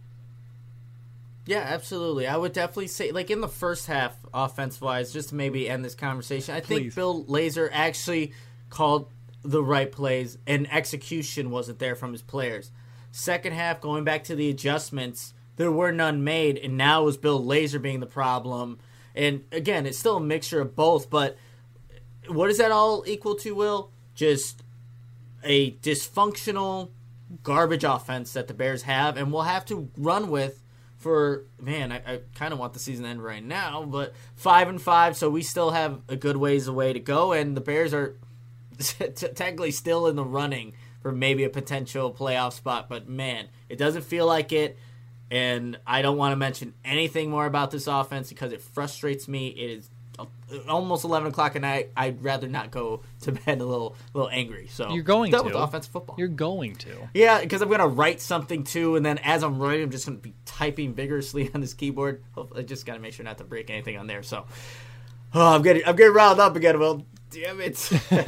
Yeah, absolutely. I would definitely say, like in the first half, offense-wise, just to maybe end this conversation, I think Please. Bill Lazor actually called the right plays, and execution wasn't there from his players. Second half, going back to the adjustments, there were none made, and now it was Bill Lazor being the problem. And again, it's still a mixture of both, but what does that all equal to, Will? Just a dysfunctional, garbage offense that the Bears have, and will have to run with for, man, I, I kind of want the season to end right now, but five and five, so we still have a good ways away to go, and the Bears are technically still in the running for maybe a potential playoff spot, but man, it doesn't feel like it, and I don't want to mention anything more about this offense because it frustrates me. It is almost eleven o'clock at night. I'd rather not go to bed a little a little angry. So you're going done to with offensive football. You're going to. Yeah, because I'm going to write something too, and then as I'm writing, I'm just going to be typing vigorously on this keyboard. I just got to make sure not to break anything on there. So, oh, I'm getting I'm getting riled up again. Well, damn it.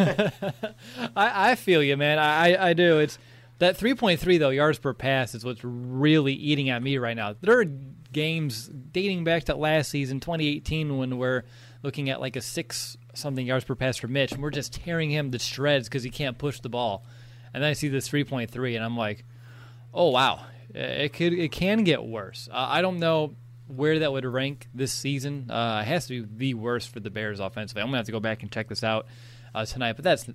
I, I feel you, man. I, I do. It's that three point three though yards per pass is what's really eating at me right now. There are games dating back to last season, twenty eighteen, when we're looking at like a six something yards per pass for Mitch, and we're just tearing him to shreds because he can't push the ball. And then I see this three point three, and I'm like, oh wow, it could it can get worse. Uh, I don't know where that would rank this season. Uh, it has to be the worst for the Bears offensively. I'm gonna have to go back and check this out uh, tonight, but that's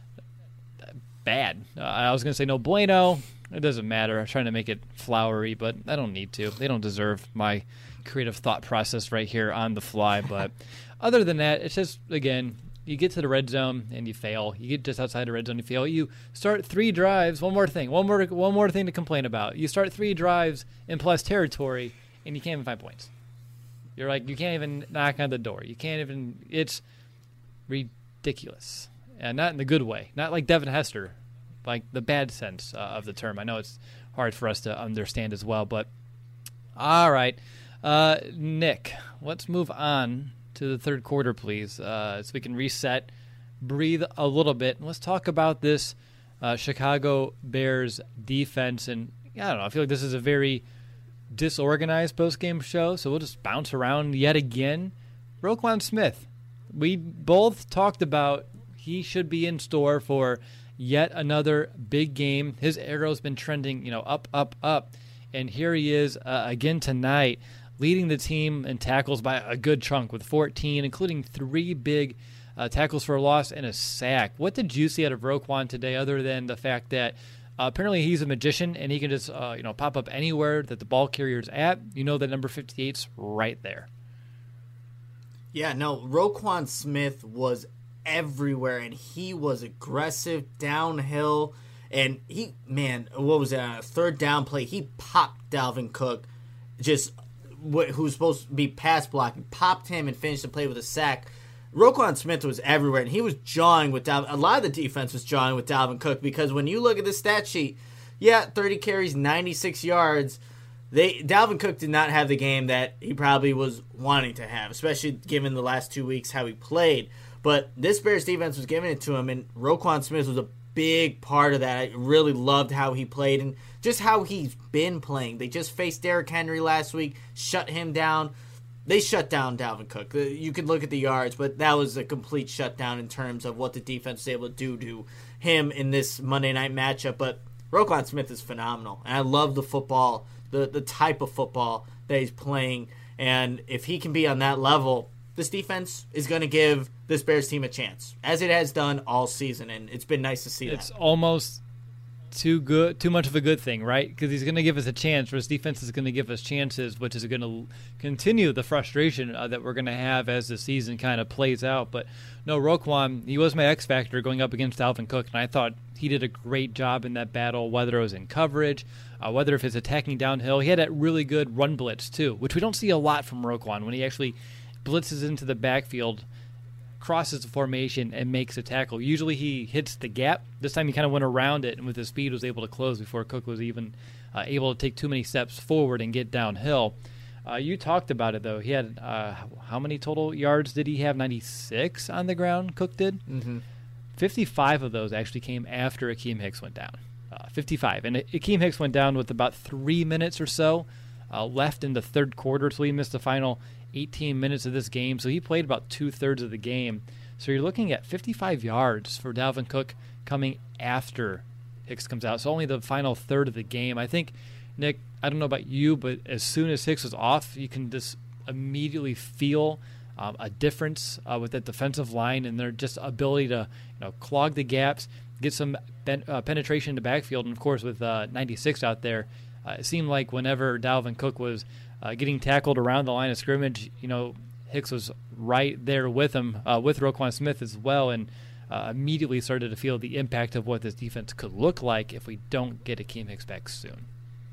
bad. Uh, I was gonna say no bueno. It doesn't matter. I'm trying to make it flowery, but I don't need to. They don't deserve my creative thought process right here on the fly. But other than that, it's just, again, you get to the red zone and you fail. You get just outside the red zone, you fail. You start three drives. One more thing. One more one more thing to complain about. You start three drives in plus territory, and you can't even find points. You're like, you can't even knock on the door. You can't even – it's ridiculous. And not in the good way. Not like Devin Hester, like the bad sense uh, of the term. I know it's hard for us to understand as well. But all right. Uh, Nick, let's move on to the third quarter, please, uh, so we can reset, breathe a little bit, and let's talk about this uh, Chicago Bears defense. And I don't know, I feel like this is a very disorganized post-game show, so we'll just bounce around yet again. Roquan Smith, we both talked about he should be in store for yet another big game. His arrow's been trending, you know, up, up, up, and here he is uh, again tonight, leading the team in tackles by a good chunk with fourteen, including three big uh, tackles for a loss and a sack. What did you see out of Roquan today, other than the fact that uh, apparently he's a magician and he can just uh, you know pop up anywhere that the ball carrier's at? You know that number fifty-eight's right there. Yeah, no, Roquan Smith was everywhere, and he was aggressive downhill. And he, man, what was it? On a third down play, he popped Dalvin Cook, just who's supposed to be pass blocking, popped him and finished the play with a sack. Roquan Smith was everywhere, and he was jawing with Dalvin. A lot of the defense was jawing with Dalvin Cook, because when you look at the stat sheet, yeah, thirty carries, ninety-six yards. They Dalvin Cook did not have the game that he probably was wanting to have, especially given the last two weeks how he played. But this Bears defense was giving it to him, and Roquan Smith was a big part of that. I really loved how he played and just how he's been playing. They just faced Derrick Henry last week, shut him down. They shut down Dalvin Cook. You could look at the yards, but that was a complete shutdown in terms of what the defense was able to do to him in this Monday night matchup. But Roquan Smith is phenomenal, and I love the football, the, the type of football that he's playing. And if he can be on that level, this defense is going to give this Bears team a chance, as it has done all season, and it's been nice to see that. It's almost too good, too much of a good thing, right? Because he's going to give us a chance, or his defense is going to give us chances, which is going to continue the frustration uh, that we're going to have as the season kind of plays out. But no, Roquan, he was my X factor going up against Dalvin Cook, and I thought he did a great job in that battle, whether it was in coverage, uh, whether if it's attacking downhill. He had that really good run blitz too, which we don't see a lot from Roquan when he actually blitzes into the backfield, crosses the formation, and makes a tackle. Usually he hits the gap. This time he kind of went around it, and with his speed was able to close before Cook was even uh, able to take too many steps forward and get downhill. Uh, you talked about it, though. He had, uh, how many total yards did he have? ninety-six on the ground, Cook did? Mm-hmm. fifty-five of those actually came after Akeem Hicks went down. Uh, fifty-five. And Akeem Hicks went down with about three minutes or so uh, left in the third quarter, so he missed the final eighteen minutes of this game, so he played about two-thirds of the game. So you're looking at fifty-five yards for Dalvin Cook coming after Hicks comes out, so only the final third of the game. I think, Nick, I don't know about you, but as soon as Hicks was off, you can just immediately feel um, a difference uh, with that defensive line and their just ability to you know clog the gaps, get some ben- uh, penetration in the backfield, and of course with uh, ninety-six out there, uh, it seemed like whenever Dalvin Cook was Uh, getting tackled around the line of scrimmage, you know, Hicks was right there with him, uh, with Roquan Smith as well, and uh, immediately started to feel the impact of what this defense could look like if we don't get Akeem Hicks back soon.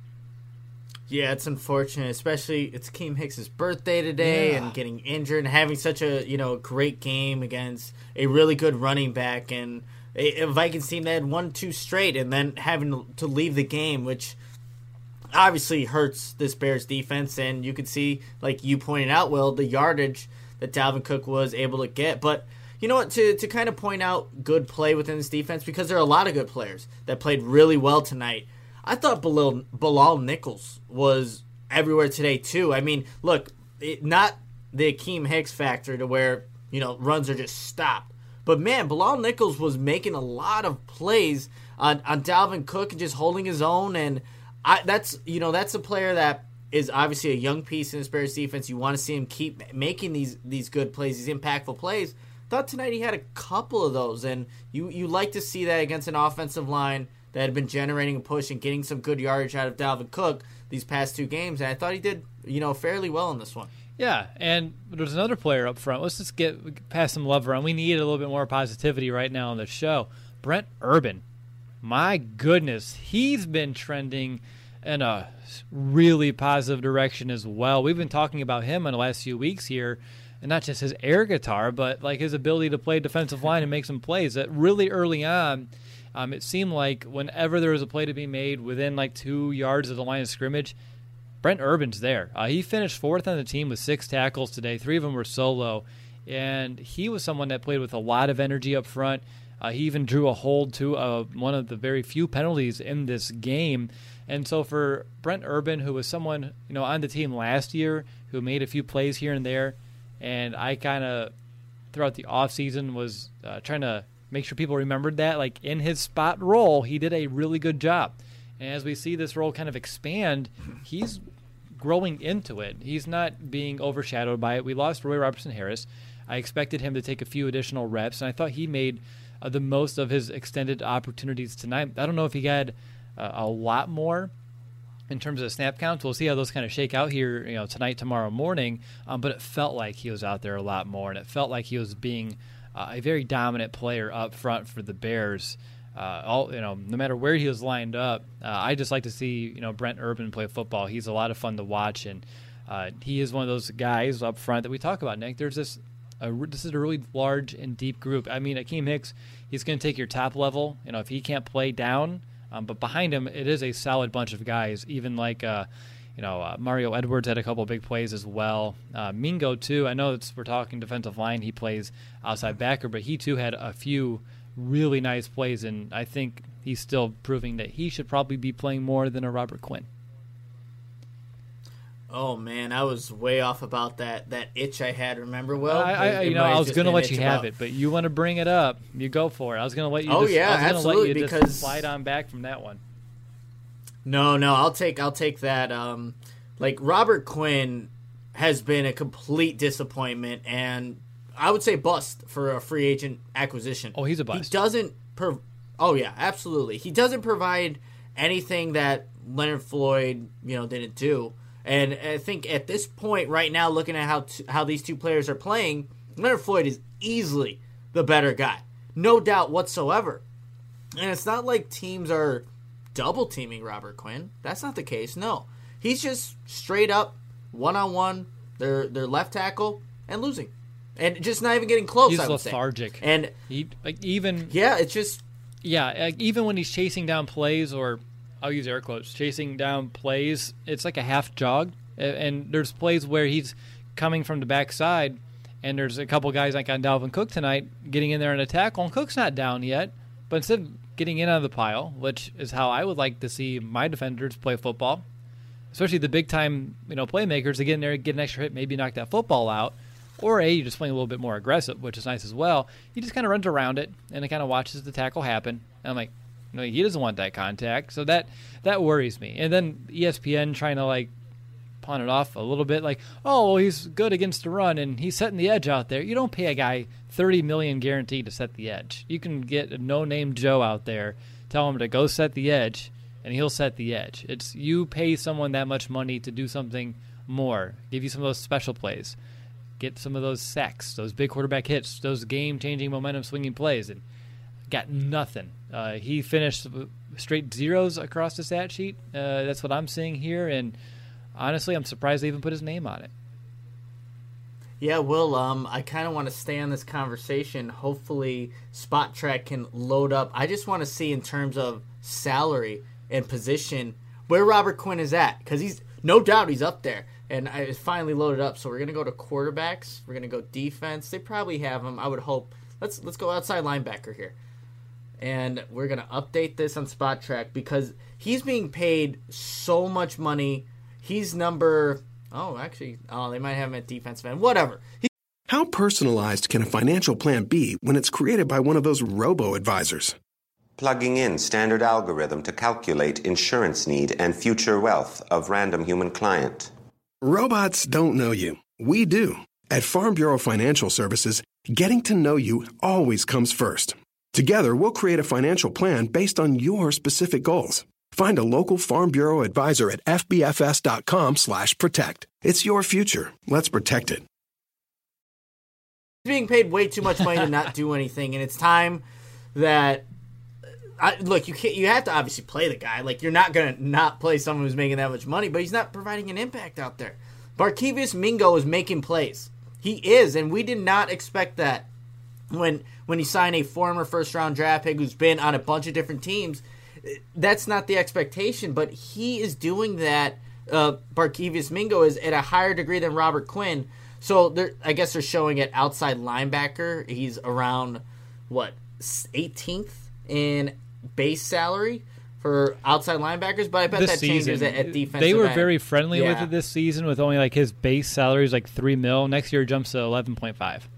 Yeah, it's unfortunate, especially it's Akeem Hicks' birthday today, yeah. and getting injured and having such a you know great game against a really good running back and a, a Vikings team that had won two straight, and then having to leave the game, which obviously hurts this Bears defense, and you could see, like you pointed out, Will, the yardage that Dalvin Cook was able to get. But you know what, to, to kind of point out good play within this defense, because there are a lot of good players that played really well tonight. I thought Bilal, Bilal Nichols was everywhere today too. I mean, look, it, not the Akeem Hicks factor to where, you know, runs are just stopped. But man, Bilal Nichols was making a lot of plays on, on Dalvin Cook and just holding his own, and I, that's you know that's a player that is obviously a young piece in this Bears defense. You want to see him keep making these these good plays, these impactful plays. Thought tonight he had a couple of those, and you you like to see that against an offensive line that had been generating a push and getting some good yardage out of Dalvin Cook these past two games. And I thought he did you know fairly well in this one. Yeah, and there's another player up front. Let's just get pass some love around. We need a little bit more positivity right now on the show. Brent Urban. My goodness, he's been trending in a really positive direction as well. We've been talking about him in the last few weeks here, and not just his air guitar, but like his ability to play defensive line and make some plays. That really early on, um, it seemed like whenever there was a play to be made within like two yards of the line of scrimmage, Brent Urban's there. Uh, he finished fourth on the team with six tackles today. Three of them were solo, and he was someone that played with a lot of energy up front. Uh, he even drew a hold to uh, one of the very few penalties in this game. And so for Brent Urban, who was someone you know on the team last year, who made a few plays here and there, and I kind of throughout the offseason was uh, trying to make sure people remembered that, like in his spot role, he did a really good job. And as we see this role kind of expand, he's growing into it. He's not being overshadowed by it. We lost Roy Robertson Harris. I expected him to take a few additional reps, and I thought he made Uh, the most of his extended opportunities tonight. I don't know if he had uh, a lot more in terms of snap counts. We'll see how those kind of shake out here, you know, tonight, tomorrow morning. Um, but it felt like he was out there a lot more, and it felt like he was being uh, a very dominant player up front for the Bears. Uh, all you know, no matter where he was lined up, uh, I just like to see you know Brent Urban play football. He's a lot of fun to watch, and uh, he is one of those guys up front that we talk about, Nick. There's this. A, this is a really large and deep group. I mean, Akeem Hicks, he's going to take your top level, you know, if he can't play down. Um, but behind him, it is a solid bunch of guys. Even like, uh, you know, uh, Mario Edwards had a couple of big plays as well. Uh, Mingo too. I know it's, we're talking defensive line. He plays outside backer, but he too had a few really nice plays, and I think he's still proving that he should probably be playing more than a Robert Quinn. Oh man, I was way off about that that itch I had. Remember, Will? I, I you know, I was going to let you have it, but you want to bring it up, you go for it. I was going to let you. Oh just, yeah, I was absolutely. Let you because just slide on back from that one. No, no, I'll take I'll take that. Um, like Robert Quinn has been a complete disappointment, and I would say bust for a free agent acquisition. Oh, he's a bust. He doesn't. Per- Oh, yeah, absolutely. He doesn't provide anything that Leonard Floyd, you know, didn't do. And I think at this point right now, looking at how t- how these two players are playing, Leonard Floyd is easily the better guy. No doubt whatsoever. And it's not like teams are double-teaming Robert Quinn. That's not the case, no. He's just straight up, one-on-one, their their left tackle, and losing. And just not even getting close, He's I would lethargic. say. And he, like, even... Yeah, it's just... Yeah, like, even when he's chasing down plays, or I'll use air quotes, chasing down plays, it's like a half jog. And there's plays where he's coming from the backside, and there's a couple guys like on Dalvin Cook tonight getting in there in a tackle, and Cook's not down yet. But instead of getting in on the pile, which is how I would like to see my defenders play football, especially the big-time, you know, playmakers, to get in there, get an extra hit, maybe knock that football out. Or A, you're just playing a little bit more aggressive, which is nice as well. He just kind of runs around it, and it kind of watches the tackle happen. And I'm like, no, he doesn't want that contact. So that that worries me. And then E S P N trying to, like, pawn it off a little bit, like, oh, well, he's good against the run, and he's setting the edge out there. You don't pay a guy thirty million dollars guaranteed to set the edge. You can get a no-name Joe out there, tell him to go set the edge, and he'll set the edge. It's you pay someone that much money to do something more, give you some of those special plays, get some of those sacks, those big quarterback hits, those game-changing, momentum-swinging plays, and got nothing. Uh, he finished straight zeros across the stat sheet. Uh, that's what I'm seeing here, and honestly, I'm surprised they even put his name on it. Yeah, Will, um, I kind of want to stay on this conversation. Hopefully, Spot Track can load up. I just want to see in terms of salary and position where Robert Quinn is at, because he's no doubt he's up there. And I finally loaded up, so we're gonna go to quarterbacks. We're gonna go defense. They probably have him. I would hope. Let's let's go outside linebacker here, and we're gonna update this on Spot Track because he's being paid so much money. He's number. Oh, actually, oh, they might have him at defensive end. Whatever. He- How personalized can a financial plan be when it's created by one of those robo-advisors? Plugging in standard algorithm to calculate insurance need and future wealth of random human client. Robots don't know you. We do. At Farm Bureau Financial Services, getting to know you always comes first. Together, we'll create a financial plan based on your specific goals. Find a local Farm Bureau advisor at fbfs.com slash protect. It's your future. Let's protect it. He's being paid way too much money to not do anything, and it's time that... I, look, you can't. You have to obviously play the guy. Like, you're not going to not play someone who's making that much money, but he's not providing an impact out there. Barkevious Mingo is making plays. He is, and we did not expect that when when he signed a former first-round draft pick who's been on a bunch of different teams. That's not the expectation, but he is doing that. Uh, Barkevious Mingo is at a higher degree than Robert Quinn. So I guess they're showing it outside linebacker. He's around, what, eighteenth in base salary for outside linebackers, but I bet this that season, changes at, at defensive They were end. very friendly yeah. with it this season, with only like his base salary is like three mil. Next year it jumps to eleven point five.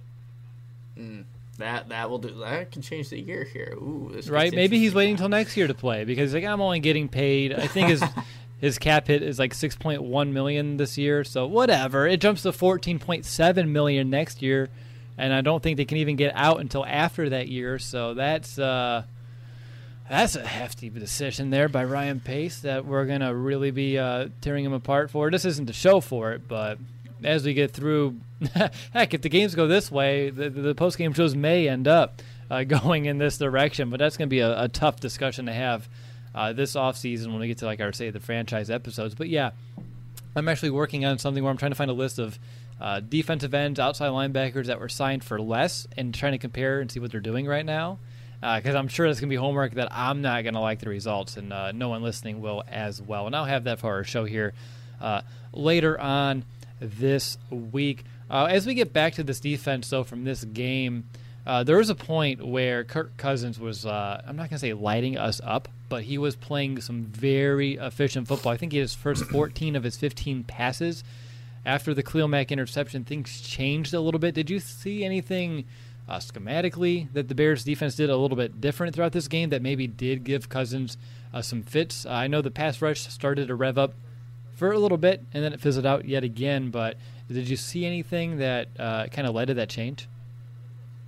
Mm, that that will do. That can change the year here. Ooh, this right? gets Maybe he's waiting now. until next year to play because like I'm only getting paid. I think his his cap hit is like six point one million this year. So whatever, it jumps to fourteen point seven million next year, and I don't think they can even get out until after that year. So that's. Uh, That's a hefty decision there by Ryan Pace that we're going to really be uh, tearing him apart for. This isn't the show for it, but as we get through, heck, if the games go this way, the, the post-game shows may end up uh, going in this direction, but that's going to be a, a tough discussion to have uh, this offseason when we get to, like I say, the franchise episodes. But, yeah, I'm actually working on something where I'm trying to find a list of uh, defensive ends, outside linebackers that were signed for less and trying to compare and see what they're doing right now. Because uh, I'm sure that's going to be homework that I'm not going to like the results, and uh, no one listening will as well. And I'll have that for our show here uh, later on this week. Uh, as we get back to this defense, though, from this game, uh, there was a point where Kirk Cousins was, uh, I'm not going to say lighting us up, but he was playing some very efficient football. I think he had his first fourteen of his fifteen passes. After the Khalil Mack interception, things changed a little bit. Did you see anything Uh, schematically that the Bears defense did a little bit different throughout this game that maybe did give Cousins uh, some fits? Uh, I know the pass rush started to rev up for a little bit and then it fizzled out yet again, but did you see anything that uh, kind of led to that change?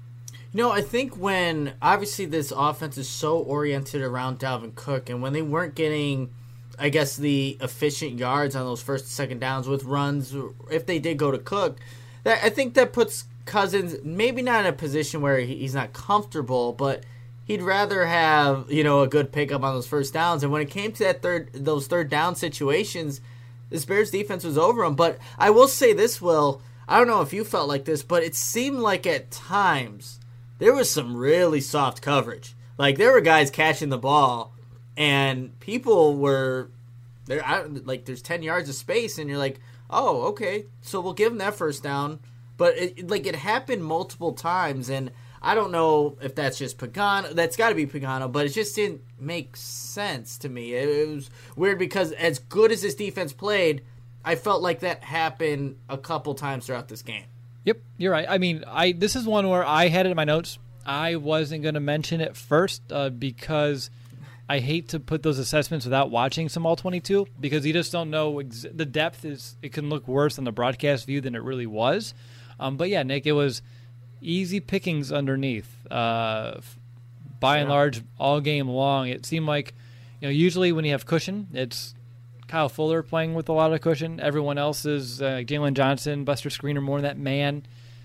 You know, I think when obviously this offense is so oriented around Dalvin Cook, and when they weren't getting, I guess, the efficient yards on those first and second downs with runs, if they did go to Cook, that I think that puts Cousins maybe not in a position where he's not comfortable, but he'd rather have, you know, a good pickup on those first downs. And when it came to that third, those third down situations, this Bears defense was over them. But I will say this, Will, I don't know if you felt like this, but it seemed like at times there was some really soft coverage. Like there were guys catching the ball, and people were there. Like there's ten yards of space, and you're like, oh, okay, so we'll give them that first down. But it, like it happened multiple times, and I don't know if that's just Pagano. That's got to be Pagano, but it just didn't make sense to me. It, it was weird because as good as this defense played, I felt like that happened a couple times throughout this game. Yep, you're right. I mean, I this is one where I had it in my notes. I wasn't going to mention it first uh, because I hate to put those assessments without watching some all twenty-two because you just don't know ex- the depth is. It can look worse on the broadcast view than it really was. Um, but yeah, Nick, it was easy pickings underneath. Uh, by and large, all game long, it seemed like, you know, usually when you have cushion, it's Kyle Fuller playing with a lot of cushion. Everyone else is uh, Jalen Johnson, Buster Screener, more that man.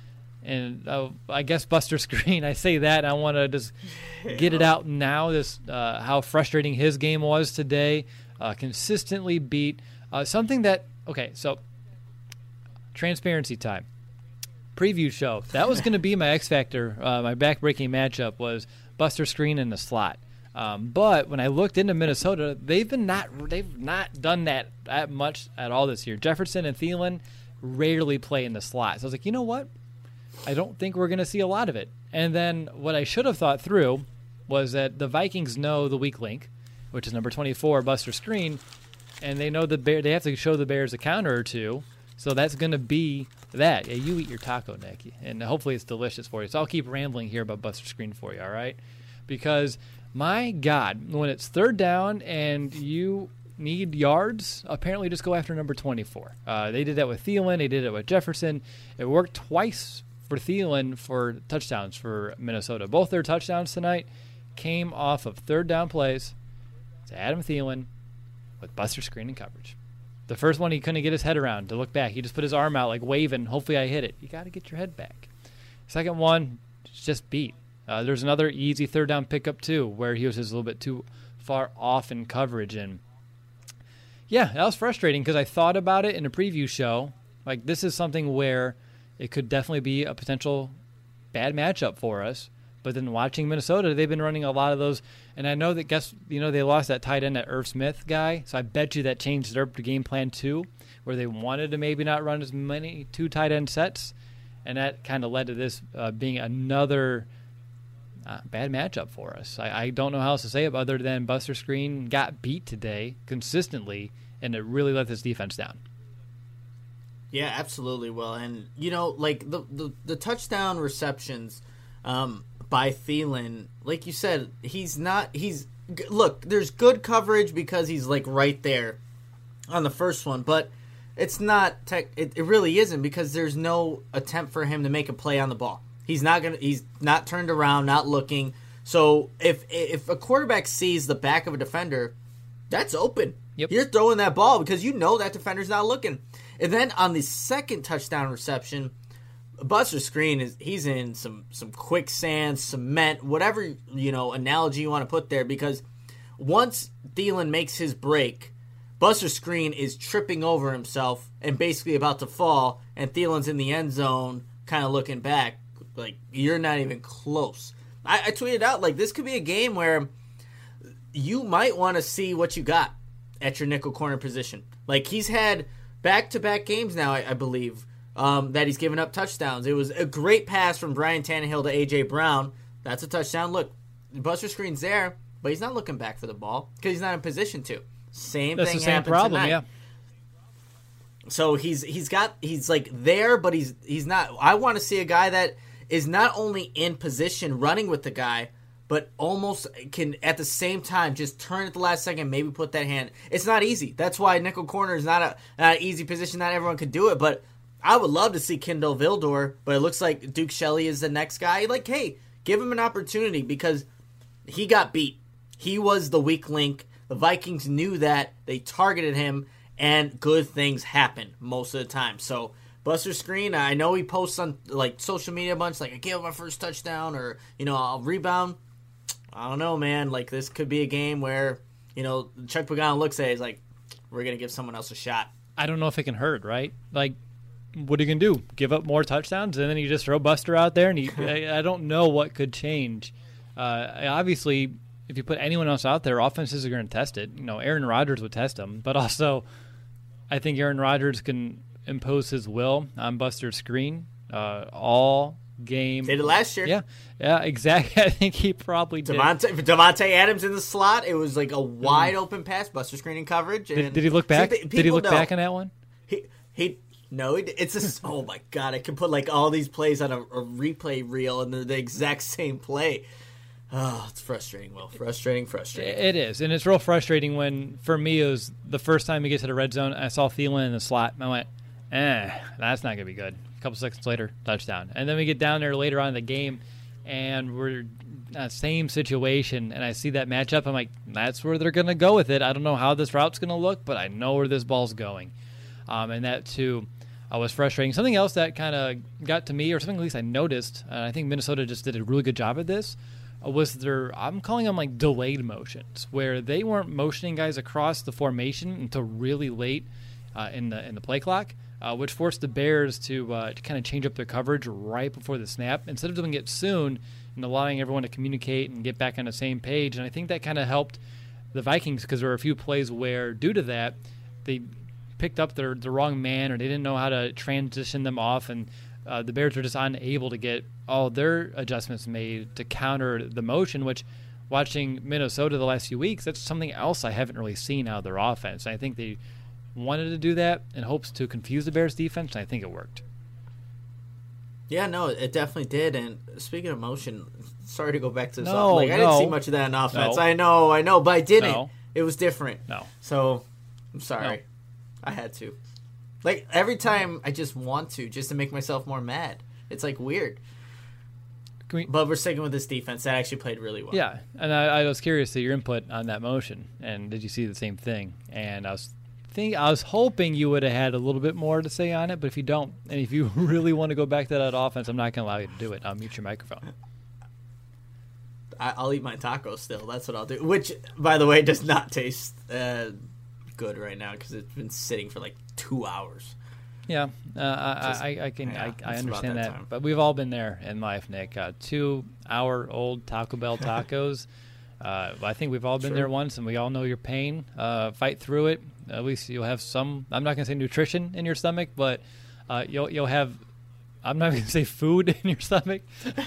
And uh, I guess Buster Screen, I say that, and I want to just get it out now, this uh, how frustrating his game was today. Uh, consistently beat. Uh, something that, okay, so transparency time. Preview show. That was going to be my X Factor. Uh, my back-breaking matchup was Buster Screen in the slot. Um, but when I looked into Minnesota, they've been not they've not done that that much at all this year. Jefferson and Thielen rarely play in the slot. So I was like, you know what? I don't think we're going to see a lot of it. And then what I should have thought through was that the Vikings know the weak link, which is number twenty-four, Buster Screen, and they know the Bear. They have to show the Bears a counter or two. So that's going to be that. Yeah, you eat your taco, Nick, and hopefully it's delicious for you. So I'll keep rambling here about Buster Screen for you, all right? Because, my God, when it's third down and you need yards, apparently just go after number twenty-four. Uh, they did that with Thielen. They did it with Jefferson. It worked twice for Thielen for touchdowns for Minnesota. Both their touchdowns tonight came off of third down plays to Adam Thielen with Buster Screen and coverage. The first one he couldn't get his head around to look back. He just put his arm out like waving, hopefully I hit it. You got to get your head back. Second one, just beat. Uh, there's another easy third down pickup too where he was just a little bit too far off in coverage. And yeah, that was frustrating because I thought about it in a preview show. Like this is something where it could definitely be a potential bad matchup for us. But then watching Minnesota, they've been running a lot of those. And I know that, guess you know, they lost that tight end, that Irv Smith guy. So I bet you that changed their game plan too, where they wanted to maybe not run as many two tight end sets. And that kind of led to this uh, being another uh, bad matchup for us. I, I don't know how else to say it other than Buster Screen got beat today consistently, and it really let this defense down. Yeah, absolutely, Will. And, you know, like the, the, the touchdown receptions um, by Thielen, like you said, he's not, he's, look, there's good coverage because he's like right there on the first one, but it's not, tech, it, it really isn't because there's no attempt for him to make a play on the ball. He's not going to, he's not turned around, not looking. So if, if a quarterback sees the back of a defender, that's open. Yep. You're throwing that ball because you know that defender's not looking. And then on the second touchdown reception, Buster Screen is he's in some some quicksand, cement, whatever you know analogy you want to put there. Because once Thielen makes his break, Buster Screen is tripping over himself and basically about to fall, and Thielen's in the end zone, kind of looking back like you're not even close. I, I tweeted out like this could be a game where you might want to see what you got at your nickel corner position. Like he's had back-to-back games now, I, I believe. Um, that he's given up touchdowns. It was a great pass from Brian Tannehill to A J. Brown. That's a touchdown. Look, Buster Screen's there, but he's not looking back for the ball because he's not in position to. Same That's thing the same happened problem, tonight. yeah. So he's he's got he's like there, but he's he's not. I want to see a guy that is not only in position running with the guy, but almost can at the same time just turn at the last second, maybe put that hand. It's not easy. That's why nickel corner is not a not an easy position. Not everyone could do it, but I would love to see Kindle Vildor, but it looks like Duke Shelley is the next guy. Like, hey, Give him an opportunity because he got beat. He was the weak link. The Vikings knew that. They targeted him, and good things happen most of the time. So Buster Skrine, I know he posts on like social media a bunch, like I gave up my first touchdown, or you know I'll rebound. I don't know, man. Like this could be a game where you know Chuck Pagano looks at it, he's like, we're gonna give someone else a shot. I don't know if it can hurt, right? Like, what are you gonna do? Give up more touchdowns, and then you just throw Buster out there, and you, I, I don't know what could change. Uh, obviously, if you put anyone else out there, offenses are going to test it. You know, Aaron Rodgers would test them, but also, I think Aaron Rodgers can impose his will on Buster Skrine uh, all game. Did it last year? Yeah, yeah, exactly. I think he probably did. Devontae, Devontae Adams in the slot. It was like a wide open pass, Buster Skrine in coverage. And did, did he look back? See, did he look know. back on that one? He he. No, it, it's a. Oh my God! I can put like all these plays on a, a replay reel, and they're the exact same play. Oh, it's frustrating, Will. Frustrating, frustrating. It is, and it's real frustrating when, for me, it was the first time we get to the red zone, I saw Thielen in the slot, and I went, eh, that's not going to be good. A couple seconds later, touchdown. And then we get down there later on in the game, and we're in the same situation, and I see that matchup. I'm like, that's where they're going to go with it. I don't know how this route's going to look, but I know where this ball's going. Um, and that, too, uh, was frustrating. Something else that kind of got to me, or something at least I noticed, and I think Minnesota just did a really good job at this, was their, I'm calling them like delayed motions, where they weren't motioning guys across the formation until really late uh, in the in the play clock, uh, which forced the Bears to, uh, to kind of change up their coverage right before the snap instead of doing it soon and allowing everyone to communicate and get back on the same page. And I think that kind of helped the Vikings because there were a few plays where, due to that, they picked up their the wrong man or they didn't know how to transition them off, and Uh, the Bears were just unable to get all their adjustments made to counter the motion, which, watching Minnesota the last few weeks, that's something else I haven't really seen out of their offense. I think they wanted to do that in hopes to confuse the Bears' defense, and I think it worked. Yeah, no, it definitely did. And speaking of motion, sorry to go back to this. No, like, I no. didn't see much of that in offense. No. I know, I know, but I didn't. No. It was different. No. So, I'm sorry. No. I had to. Like, every time I just want to, just to make myself more mad. It's, like, weird. Can we, but we're sticking with this defense. That actually played really well. Yeah, and I, I was curious to your input on that motion, and did you see the same thing? And I was think I was hoping you would have had a little bit more to say on it, but if you don't, and if you really want to go back to that offense, I'm not going to allow you to do it. I'll mute your microphone. I, I'll eat my tacos still. That's what I'll do. Which, by the way, does not taste uh, good right now because it's been sitting for like two hours. Yeah, uh, Just, I, I, I can yeah, I, I understand that that, time. but we've all been there in life, Nick. Uh, two-hour-old Taco Bell tacos. uh, I think we've all been Sure. there once, and we all know your pain. Uh, fight through it. At least you'll have some. I'm not going to say nutrition in your stomach, but uh, you'll you'll have. I'm not going to say food in your stomach.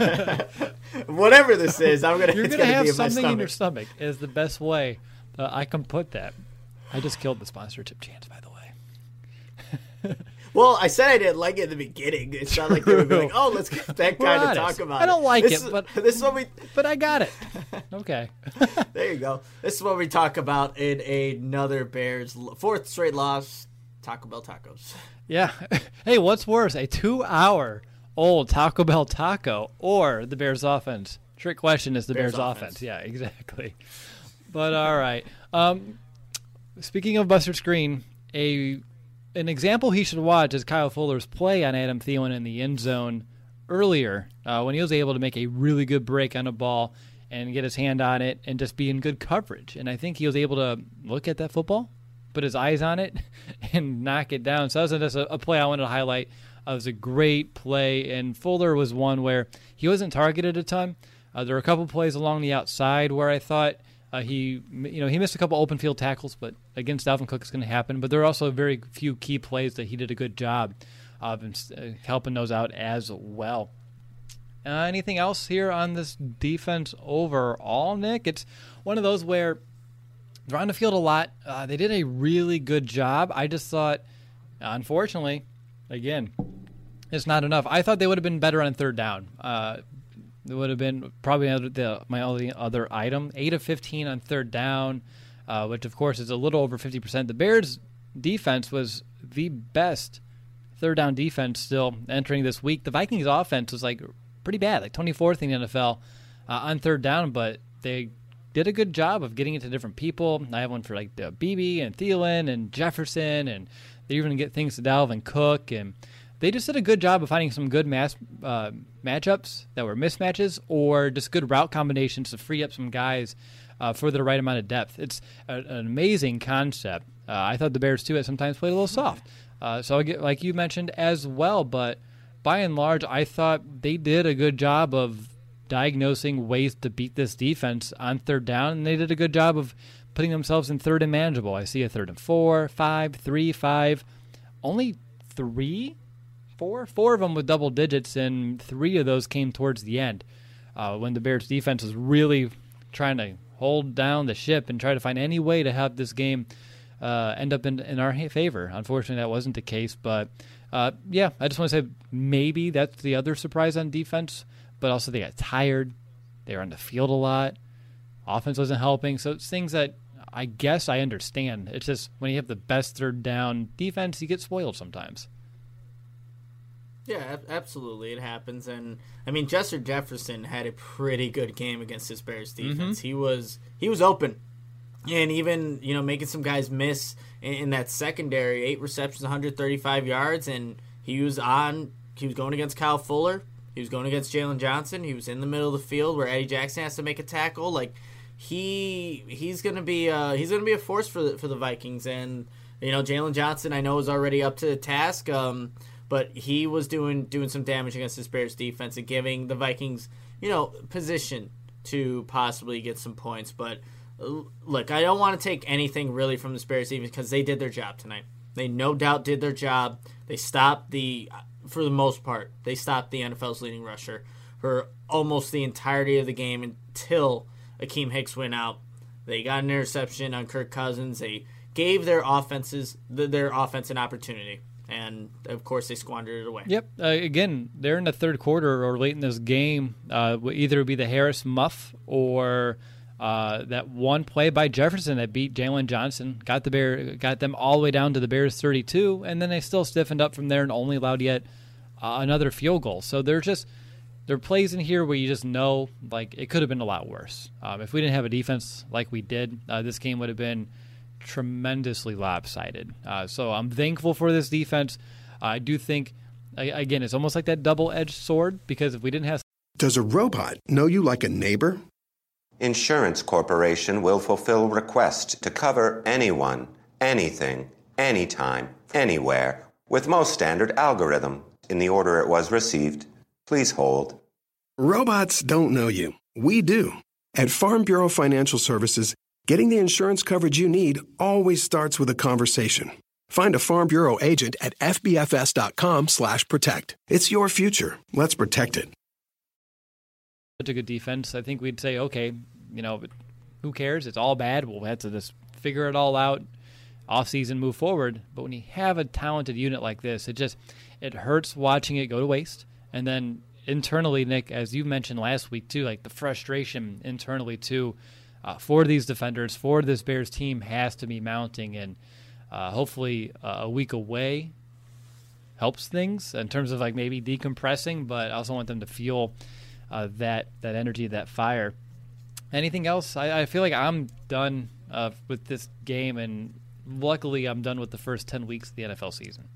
Whatever this is, I'm gonna. You're it's going to gonna have be in my something in your stomach. stomach. Is the best way uh, I can put that. I just killed the sponsorship chance, by the way. Well, I said I didn't like it in the beginning. It's not like they would be like, "Oh, let's get that We're guy to honest. talk about." I don't it. like this it, is, but this is what we. But I got it. Okay. There you go. This is what we talk about in another Bears fourth straight loss. Taco Bell tacos. Yeah. Hey, what's worse, a two-hour-old Taco Bell taco or the Bears offense? Trick question is the Bears, Bears offense. offense. Yeah, exactly. But all right. Um, speaking of Buster Skrine, a an example he should watch is Kyle Fuller's play on Adam Thielen in the end zone earlier uh, when he was able to make a really good break on a ball and get his hand on it and just be in good coverage. And I think he was able to look at that football, put his eyes on it, and knock it down. So that was just a, a play I wanted to highlight. Uh, it was a great play, and Fuller was one where he wasn't targeted a ton. Uh, there were a couple plays along the outside where I thought uh, he, you know, he missed a couple open field tackles, but against Dalvin Cook it's going to happen. But there are also very few key plays that he did a good job of uh, helping those out as well. Uh, anything else here on this defense overall, Nick? It's one of those where they're on the field a lot. Uh, they did a really good job. I just thought, unfortunately, again, it's not enough. I thought they would have been better on third down. Uh, it would have been probably the, my only other item. eight of fifteen on third down, uh, which, of course, is a little over fifty percent. The Bears' defense was the best third down defense still entering this week. The Vikings' offense was like pretty bad, like twenty-fourth in the N F L uh, on third down, but they did a good job of getting it to different people. I have one for like the B B and Thielen and Jefferson, and they even get things to Dalvin Cook, and they just did a good job of finding some good mass uh, matchups that were mismatches or just good route combinations to free up some guys uh, for the right amount of depth. It's a, an amazing concept. Uh, I thought the Bears, too, at sometimes played a little soft. Uh, so, I get, like you mentioned as well, but by and large, I thought they did a good job of diagnosing ways to beat this defense on third down, and they did a good job of putting themselves in third and manageable. I see a third and four, five, three, five. Only three? Four, four of them with double digits, and three of those came towards the end uh, when the Bears' defense was really trying to hold down the ship and try to find any way to have this game uh, end up in, in our favor. Unfortunately, that wasn't the case, but uh, yeah, I just want to say maybe that's the other surprise on defense, but also they got tired. They were on the field a lot. Offense wasn't helping, so it's things that I guess I understand. It's just when you have the best third down defense, you get spoiled sometimes. Yeah, absolutely. It happens. And, I mean, Justin Jefferson had a pretty good game against this Bears defense. Mm-hmm. He was he was open. And even, you know, making some guys miss in, in that secondary, eight receptions, one hundred thirty-five yards, and he was on, he was going against Kyle Fuller. He was going against Jalen Johnson. He was in the middle of the field where Eddie Jackson has to make a tackle. Like, he he's gonna be uh, he's gonna be a force for the for the Vikings. And, you know, Jalen Johnson I know is already up to the task. Um But he was doing doing some damage against this Bears defense and giving the Vikings, you know, position to possibly get some points. But look, I don't want to take anything really from the Bears defense because they did their job tonight. They no doubt did their job. They stopped the, for the most part, they stopped the N F L's leading rusher for almost the entirety of the game until Akeem Hicks went out. They got an interception on Kirk Cousins. They gave their offenses their offense an opportunity. And, of course, they squandered it away. Yep. Uh, again, they're in the third quarter or late in this game. Uh, either be the Harris muff or uh, that one play by Jefferson that beat Jalen Johnson, got the Bear, got them all the way down to the Bears' thirty-two, and then they still stiffened up from there and only allowed yet uh, another field goal. So they're just there are plays in here where you just know like it could have been a lot worse. Um, if we didn't have a defense like we did, uh, this game would have been tremendously lopsided. Uh, so I'm thankful for this defense. Uh, I do think, again, it's almost like that double-edged sword because if we didn't have... Does a robot know you like a neighbor? Insurance Corporation will fulfill requests to cover anyone, anything, anytime, anywhere, with most standard algorithm in the order it was received. Please hold. Robots don't know you. We do. At Farm Bureau Financial Services, getting the insurance coverage you need always starts with a conversation. Find a Farm Bureau agent at F B F S dot com slash protect. It's your future. Let's protect it. Such a good defense. I think we'd say, okay, you know, who cares? It's all bad. We'll have to just figure it all out, off-season, move forward. But when you have a talented unit like this, it just it hurts watching it go to waste. And then internally, Nick, as you mentioned last week too, like the frustration internally too, Uh, for these defenders, for this Bears team has to be mounting, and uh, hopefully uh, a week away helps things in terms of like maybe decompressing, but I also want them to feel uh, that that energy, that fire. Anything else? I, I feel like I'm done uh, with this game, and luckily I'm done with the first ten weeks of the N F L season.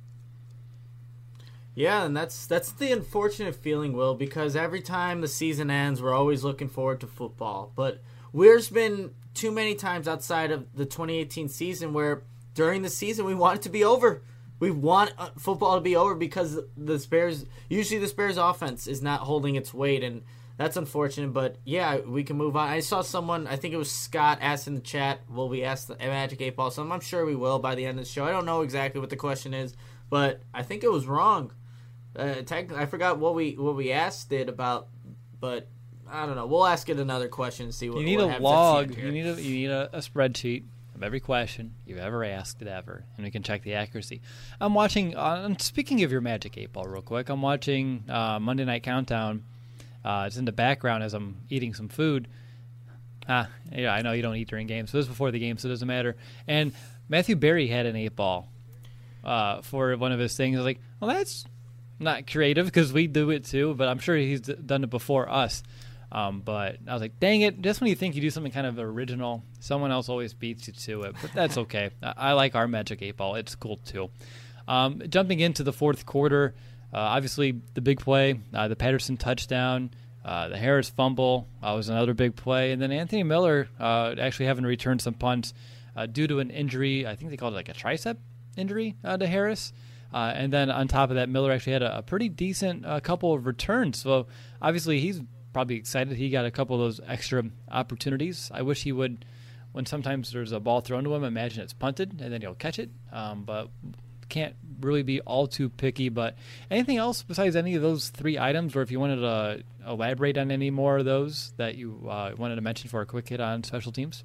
Yeah, and that's that's the unfortunate feeling, Will, because every time the season ends, we're always looking forward to football, but there's been too many times outside of the twenty eighteen season where during the season we want it to be over. We want football to be over because the Bears, usually the Bears offense is not holding its weight, and that's unfortunate. But yeah, we can move on. I saw someone, I think it was Scott, asked in the chat, will we ask the Magic eight Ball something? I'm sure we will by the end of the show. I don't know exactly what the question is, but I think it was wrong. Uh, technically, I forgot what we what we asked it about, but I don't know. We'll ask it another question and see what. You need what a log. You need a you need a, a spreadsheet of every question you've ever asked it ever, and we can check the accuracy. I'm watching. Uh, speaking of your Magic eight Ball, real quick, I'm watching uh, Monday Night Countdown. Uh, it's in the background as I'm eating some food. Ah, yeah, I know you don't eat during games, so this is before the game, so it doesn't matter. And Matthew Berry had an eight ball uh, for one of his things. I was like, well, that's not creative because we do it too, but I'm sure he's d- done it before us. Um, but I was like, dang it, just when you think you do something kind of original, someone else always beats you to it. But that's okay. I, I like our Magic eight Ball. It's cool too. Um, jumping into the fourth quarter, uh, obviously the big play, uh, the Patterson touchdown, uh, the Harris fumble uh, was another big play. And then Anthony Miller uh, actually having to return some punts uh, due to an injury. I think they called it like a tricep injury uh, to Harris. Uh, and then on top of that, Miller actually had a, a pretty decent uh, couple of returns. So obviously he's probably excited he got a couple of those extra opportunities. I wish he would, when sometimes there's a ball thrown to him, imagine it's punted and then he'll catch it. Um, but can't really be all too picky. But anything else besides any of those three items, or if you wanted to elaborate on any more of those that you uh, wanted to mention for a quick hit on special teams?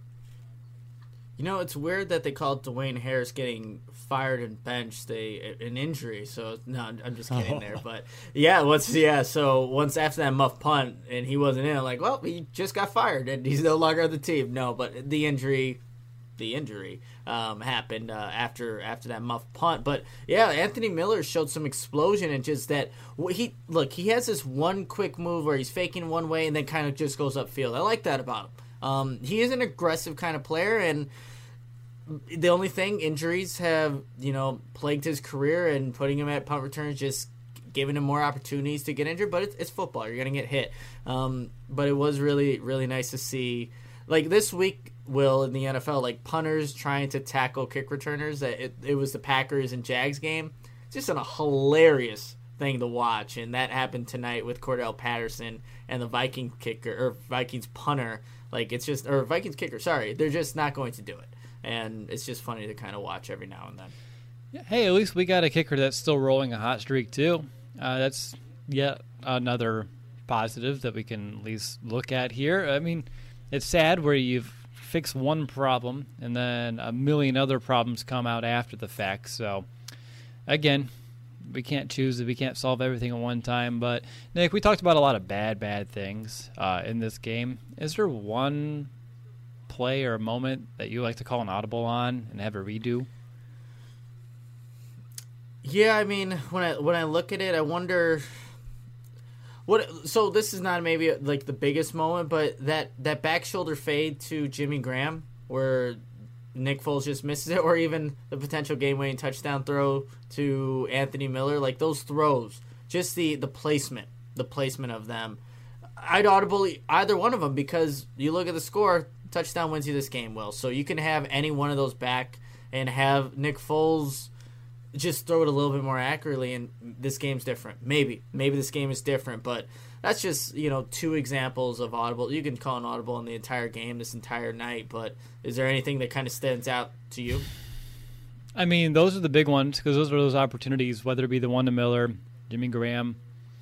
You know, it's weird that they called Dwayne Harris getting fired and benched a an injury. So no, I'm just kidding oh. there. But yeah, once yeah, so once after that muff punt and he wasn't in, I'm like, well, he just got fired and he's no longer on the team. No, but the injury, the injury um, happened uh, after after that muff punt. But yeah, Anthony Miller showed some explosion and just that he look he has this one quick move where he's faking one way and then kind of just goes upfield. I like that about him. Um, he is an aggressive kind of player, and the only thing, injuries have, you know, plagued his career, and putting him at punt returns just giving him more opportunities to get injured. But it's, it's football. You're going to get hit. Um, but it was really, really nice to see. Like this week, Will, in the N F L, like punters trying to tackle kick returners. It, it was the Packers and Jags game. It's just a hilarious thing to watch, and that happened tonight with Cordell Patterson and the Viking kicker, or Vikings punter. Like, it's just, or Vikings kicker, sorry. They're just not going to do it. And it's just funny to kind of watch every now and then. Yeah, hey, at least we got a kicker that's still rolling a hot streak, too. Uh, that's yet another positive that we can at least look at here. I mean, it's sad where you've fixed one problem and then a million other problems come out after the fact. So, again, we can't choose it. We can't solve everything at one time. But, Nick, we talked about a lot of bad, bad things uh, in this game. Is there one play or a moment that you like to call an audible on and have a redo? Yeah, I mean, when I when I look at it, I wonder what. So this is not maybe like the biggest moment, but that that back shoulder fade to Jimmy Graham where Nick Foles just misses it, or even the potential game-winning touchdown throw to Anthony Miller, like those throws, just the, the placement, the placement of them. I'd audible either one of them because you look at the score, touchdown wins you this game, Will. So you can have any one of those back and have Nick Foles just throw it a little bit more accurately, and this game's different. Maybe. Maybe this game is different, but that's just, you know, two examples of audible. You can call an audible in the entire game, this entire night, but is there anything that kind of stands out to you? I mean, those are the big ones because those are those opportunities, whether it be the one to Miller, Jimmy Graham.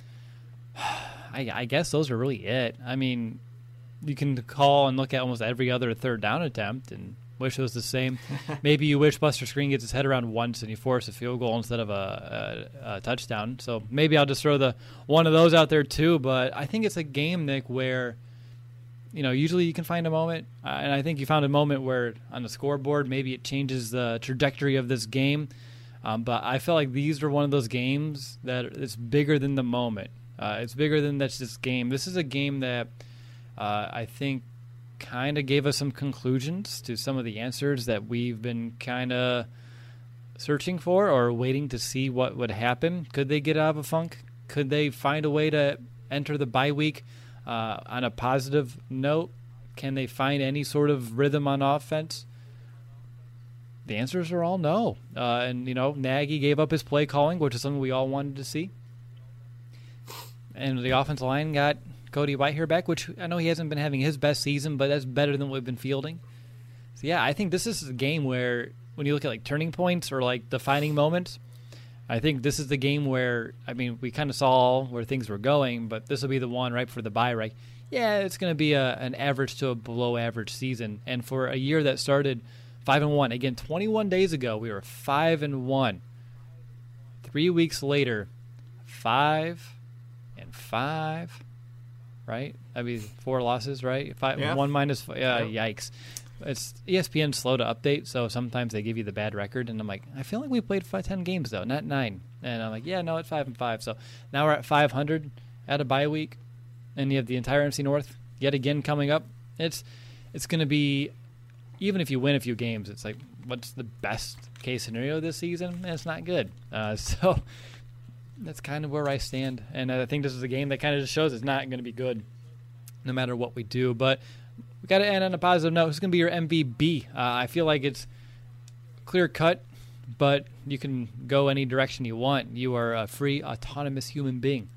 I, I guess those are really it. I mean, you can call and look at almost every other third down attempt and wish it was the same. Maybe you wish Buster Skrine gets his head around once and you force a field goal instead of a, a, a touchdown. So maybe I'll just throw the one of those out there too. But I think it's a game, Nick, where, you know, usually you can find a moment. Uh, and I think you found a moment where on the scoreboard maybe it changes the trajectory of this game. Um, but I felt like these were one of those games that it's bigger than the moment. Uh, it's bigger than that's this game. This is a game that uh, I think kind of gave us some conclusions to some of the answers that we've been kind of searching for or waiting to see what would happen. Could they get out of a funk? Could they find a way to enter the bye week uh, on a positive note? Can they find any sort of rhythm on offense? The answers are all no. Uh, and, you know, Nagy gave up his play calling, which is something we all wanted to see. And the offensive line got Cody Whitehair back, which I know he hasn't been having his best season, but that's better than what we've been fielding. So, yeah, I think this is a game where when you look at, like, turning points or, like, defining moments, I think this is the game where, I mean, we kind of saw where things were going, but this will be the one right for the bye, right? Yeah, it's going to be a, an average to a below-average season. And for a year that started five and one, again, twenty-one days ago, we were five and one. Three weeks later, five and five. Right? I mean, four losses, right? Five, yeah. One minus, uh, yeah. Yikes. it's E S P N's slow to update, so sometimes they give you the bad record, and I'm like, I feel like we played five, ten games though, not nine. And I'm like, yeah, no, it's five and five. So now we're at five hundred at a bye week, and you have the entire N F C North yet again coming up. It's it's going to be, even if you win a few games, it's like, what's the best case scenario this season? And it's not good. Uh, so that's kind of where I stand, and I think this is a game that kind of just shows it's not going to be good no matter what we do. But we got to end on a positive note. Who's going to be your M V P? Uh, I feel like it's clear cut, but you can go any direction you want. You are a free, autonomous human being.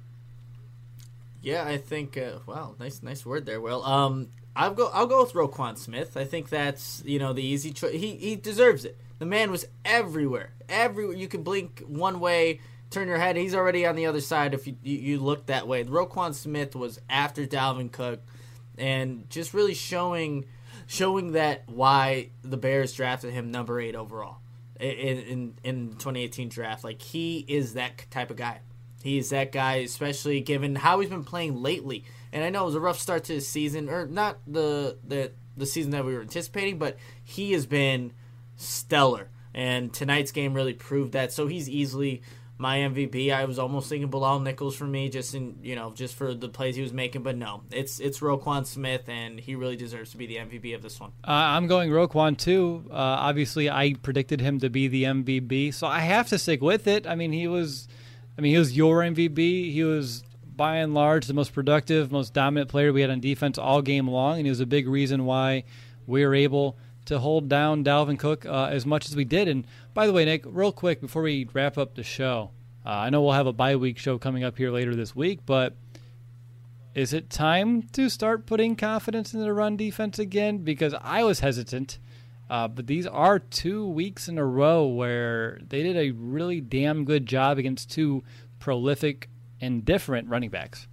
Yeah, I think. Uh, wow, nice, nice word there, Will. Um, I'll go. I'll go with Roquan Smith. I think that's you know the easy choice. He he deserves it. The man was everywhere. Everywhere you could blink one way, turn your head, he's already on the other side. If you you, you look that way, Roquan Smith was after Dalvin Cook, and just really showing showing that why the Bears drafted him number eight overall in in in the twenty eighteen draft. Like, he is that type of guy. He's that guy, especially given how he's been playing lately. And I know it was a rough start to the season, or not the the, the season that we were anticipating, but he has been stellar. And tonight's game really proved that. So he's easily my M V P. I was almost thinking Bilal Nichols for me, just in you know, just for the plays he was making, but no, it's it's Roquan Smith, and he really deserves to be the M V P of this one. Uh, I'm going Roquan too. Uh, obviously, I predicted him to be the M V P, so I have to stick with it. I mean, he was. I mean, he was your M V P. He was, by and large, the most productive, most dominant player we had on defense all game long, and he was a big reason why we were able to hold down Dalvin Cook uh, as much as we did. And by the way, Nick, real quick before we wrap up the show, uh, I know we'll have a bye week show coming up here later this week, but is it time to start putting confidence in the run defense again? Because I was hesitant. Uh, but these are two weeks in a row where they did a really damn good job against two prolific and different running backs.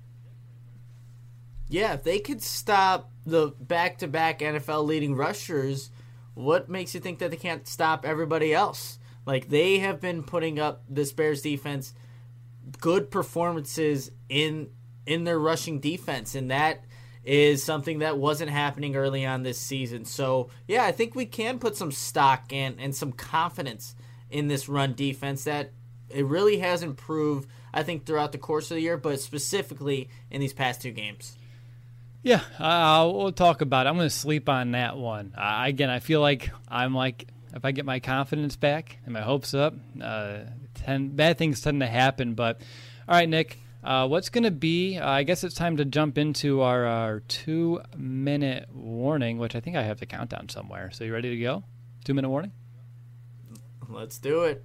Yeah, if they could stop the back-to-back N F L leading rushers, what makes you think that they can't stop everybody else? Like, they have been putting up this Bears defense good performances in in their rushing defense, and that is something that wasn't happening early on this season. So, yeah, I think we can put some stock and, and some confidence in this run defense that it really has improved, I think, throughout the course of the year, but specifically in these past two games. Yeah, uh, we'll talk about it. I'm going to sleep on that one. Uh, again, I feel like I'm like, if I get my confidence back and my hopes up, uh, tend, bad things tend to happen. But, all right, Nick. Uh, what's going to be, uh, I guess it's time to jump into our, our two-minute warning, which I think I have the countdown somewhere. So you ready to go? Two-minute warning? Let's do it.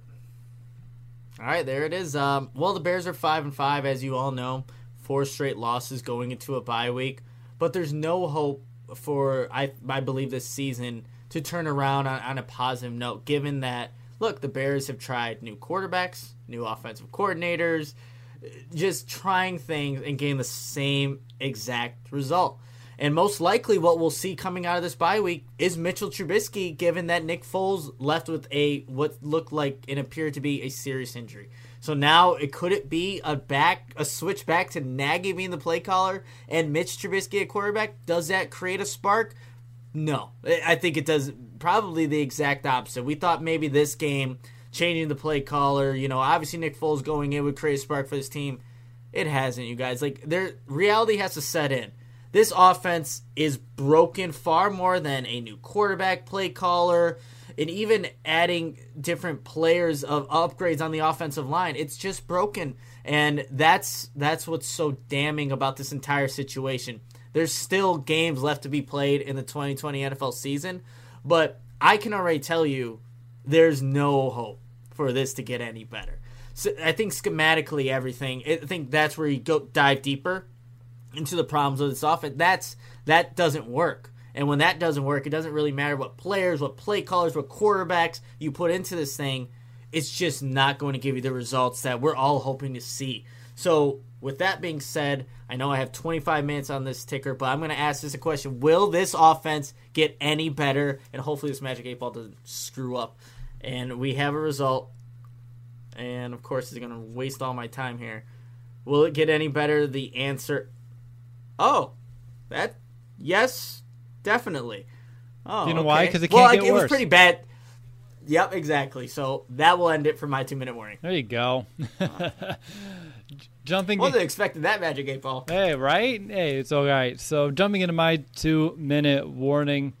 All right, there it is. Um, well, the Bears are five and five, as you all know. Four straight losses going into a bye week. But there's no hope for, I, I believe, this season to turn around on, on a positive note, given that, look, the Bears have tried new quarterbacks, new offensive coordinators, just trying things and getting the same exact result. And most likely what we'll see coming out of this bye week is Mitchell Trubisky, given that Nick Foles left with a what looked like and appeared to be a serious injury. So now it could it be a back a switch back to Nagy being the play caller and Mitch Trubisky at quarterback? Does that create a spark? No. I think it does probably the exact opposite. We thought maybe this game, changing the play caller, you know, obviously Nick Foles going in would create a spark for this team. It hasn't, you guys. Like, their reality has to set in. This offense is broken far more than a new quarterback, play caller, and even adding different players of upgrades on the offensive line. It's just broken, and that's that's what's so damning about this entire situation. There's still games left to be played in the twenty twenty N F L season, but I can already tell you there's no hope for this to get any better. So I think schematically everything, I think that's where you go dive deeper into the problems of this offense. That's that doesn't work. And when that doesn't work, it doesn't really matter what players, what play callers, what quarterbacks you put into this thing. It's just not going to give you the results that we're all hoping to see. So with that being said, I know I have twenty-five minutes on this ticker, but I'm going to ask this a question. Will this offense get any better? And hopefully this Magic eight Ball doesn't screw up. And we have a result. And, of course, it's going to waste all my time here. Will it get any better? The answer, oh, that, yes, definitely. Oh, Do you know okay. why? Because it well, can't like, get it worse. was pretty bad. Yep, exactly. So that will end it for my two-minute warning. There you go. Jumping. Wasn't expecting that magic eight ball. Hey, right? Hey, it's all right. So jumping into my two-minute warning.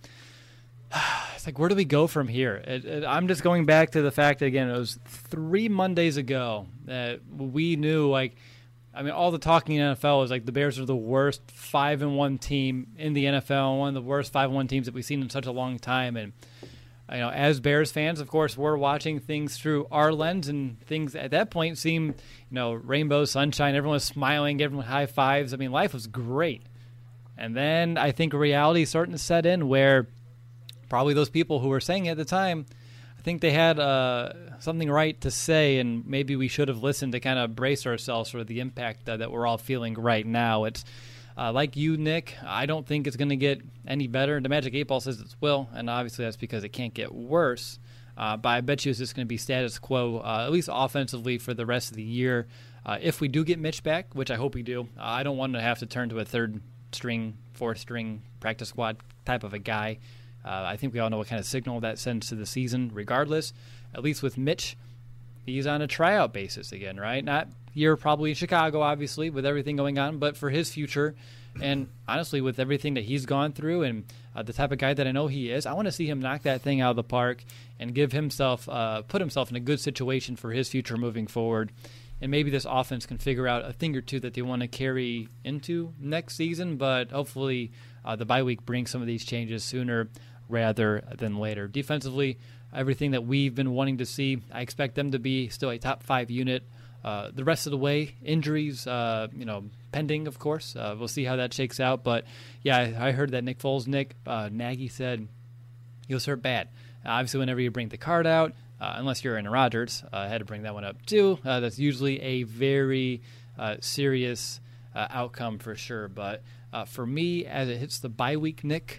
It's like, where do we go from here? It, it, I'm just going back to the fact that, again, it was three Mondays ago that we knew, like, I mean, all the talking in the N F L was like the Bears are the worst five and one team in the N F L, one of the worst five and one teams that we've seen in such a long time. And you know, as Bears fans, of course, we're watching things through our lens, and things at that point seem, you know, rainbow, sunshine. Everyone was smiling, everyone high fives. I mean, life was great. And then I think reality is starting to set in, where probably those people who were saying it at the time, I think they had uh, something right to say, and maybe we should have listened to kind of brace ourselves for the impact uh, that we're all feeling right now. It's uh, like you, Nick, I don't think it's going to get any better. The Magic eight Ball says it will, and obviously that's because it can't get worse. Uh, but I bet you it's just going to be status quo, uh, at least offensively, for the rest of the year. Uh, if we do get Mitch back, which I hope we do, uh, I don't want to have to turn to a third-string, fourth-string practice squad type of a guy. Uh, I think we all know what kind of signal that sends to the season. Regardless, at least with Mitch, he's on a tryout basis again, right? Not here probably in Chicago, obviously, with everything going on, but for his future. And honestly, with everything that he's gone through and uh, the type of guy that I know he is, I want to see him knock that thing out of the park and give himself, uh, put himself in a good situation for his future moving forward. And maybe this offense can figure out a thing or two that they want to carry into next season, but hopefully uh, the bye week brings some of these changes sooner rather than later. Defensively, everything that we've been wanting to see, I expect them to be still a top five unit. Uh, the rest of the way, injuries, uh, you know, pending, of course. Uh, we'll see how that shakes out. But, yeah, I, I heard that Nick Foles, Nick, uh, Nagy said he was hurt bad. Uh, obviously, whenever you bring the card out, uh, unless you're Aaron Rodgers, uh, I had to bring that one up too. Uh, that's usually a very uh, serious uh, outcome for sure. But uh, for me, as it hits the bye week, Nick,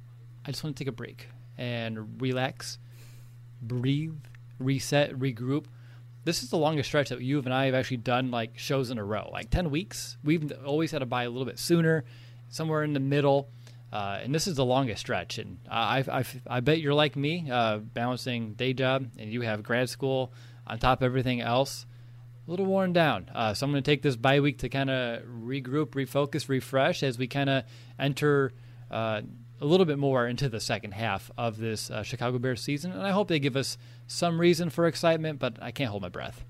I just want to take a break and relax, breathe, reset, regroup. This is the longest stretch that you and I have actually done like shows in a row, like ten weeks. We've always had to buy a little bit sooner, somewhere in the middle, uh, and this is the longest stretch. And I, I, I bet you're like me, uh, balancing day job, and you have grad school on top of everything else. A little worn down. Uh, so I'm going to take this bye week to kind of regroup, refocus, refresh as we kind of enter uh, a little bit more into the second half of this uh, Chicago Bears season. And I hope they give us some reason for excitement, but I can't hold my breath.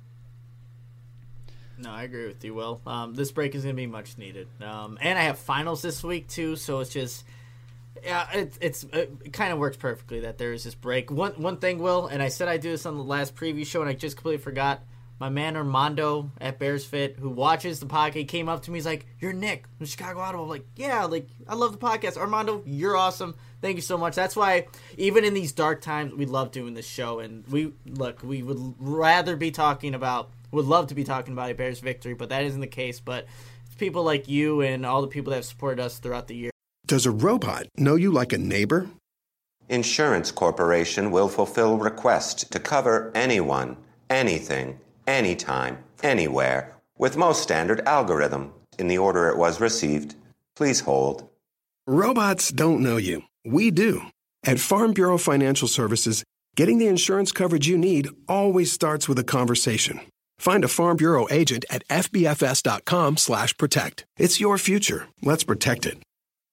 No, I agree with you, Will. Um, this break is going to be much needed. Um, and I have finals this week, too, so it's just... Yeah, it, it's, it kind of works perfectly that there is this break. One one thing, Will, and I said I'd do this on the last preview show, and I just completely forgot. My man Armando at Bears Fit, who watches the podcast, came up to me. He's like, "You're Nick from Chicago Audible." I'm like, "Yeah, like I love the podcast, Armando. You're awesome. Thank you so much." That's why even in these dark times, we love doing this show. And we look, we would rather be talking about, would love to be talking about a Bears victory, but that isn't the case. But it's people like you and all the people that have supported us throughout the year. Does a robot know you like a neighbor? Insurance Corporation will fulfill request to cover anyone, anything, anytime, anywhere, with most standard algorithm in the order it was received. Please hold. Robots don't know you. We do. At Farm Bureau Financial Services, getting the insurance coverage you need always starts with a conversation. Find a Farm Bureau agent at fbfs.com slash protect. It's your future. Let's protect it.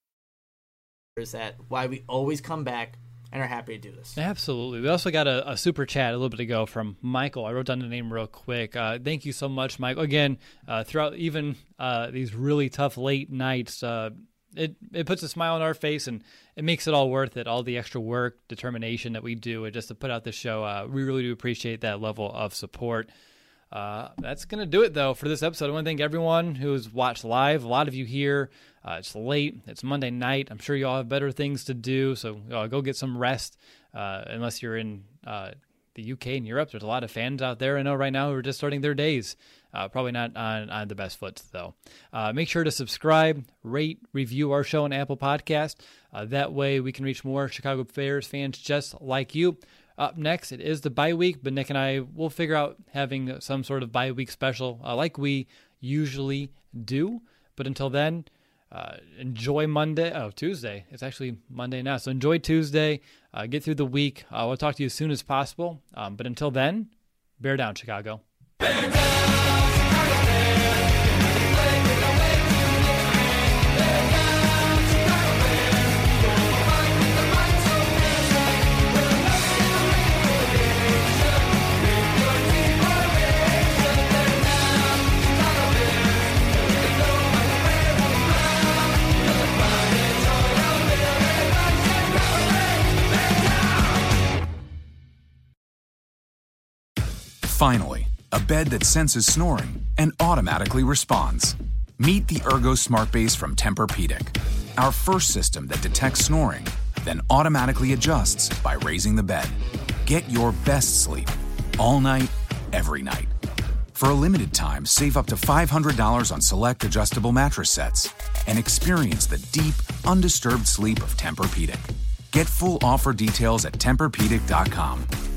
Is that why we always come back and are happy to do this. Absolutely. We also got a, a super chat a little bit ago from Michael. I wrote down the name real quick. Uh, thank you so much, Michael. Again, uh, throughout even uh, these really tough late nights, uh, it, it puts a smile on our face, and it makes it all worth it, all the extra work, determination that we do and just to put out this show. Uh, we really do appreciate that level of support. Uh, that's going to do it, though, for this episode. I want to thank everyone who's watched live. A lot of you here. Uh, it's late. It's Monday night. I'm sure you all have better things to do, so uh, go get some rest. Uh, unless you're in uh, the U K and Europe, there's a lot of fans out there I know right now who are just starting their days. Uh, probably not on, on the best foot, though. Uh, make sure to subscribe, rate, review our show on Apple Podcast. Uh, that way we can reach more Chicago Bears fans just like you. Up next, it is the bye week, but Nick and I will figure out having some sort of bye week special uh, like we usually do. But until then, uh, enjoy Monday. Oh, Tuesday. It's actually Monday now. So enjoy Tuesday. Uh, get through the week. Uh, we'll talk to you as soon as possible. Um, but until then, bear down, Chicago. Bear down, Chicago Bears. Finally, a bed that senses snoring and automatically responds. Meet the Ergo Smart Base from Tempur-Pedic, our first system that detects snoring, then automatically adjusts by raising the bed. Get your best sleep all night, every night. For a limited time, save up to five hundred dollars on select adjustable mattress sets and experience the deep, undisturbed sleep of Tempur-Pedic. Get full offer details at Tempur Pedic dot com.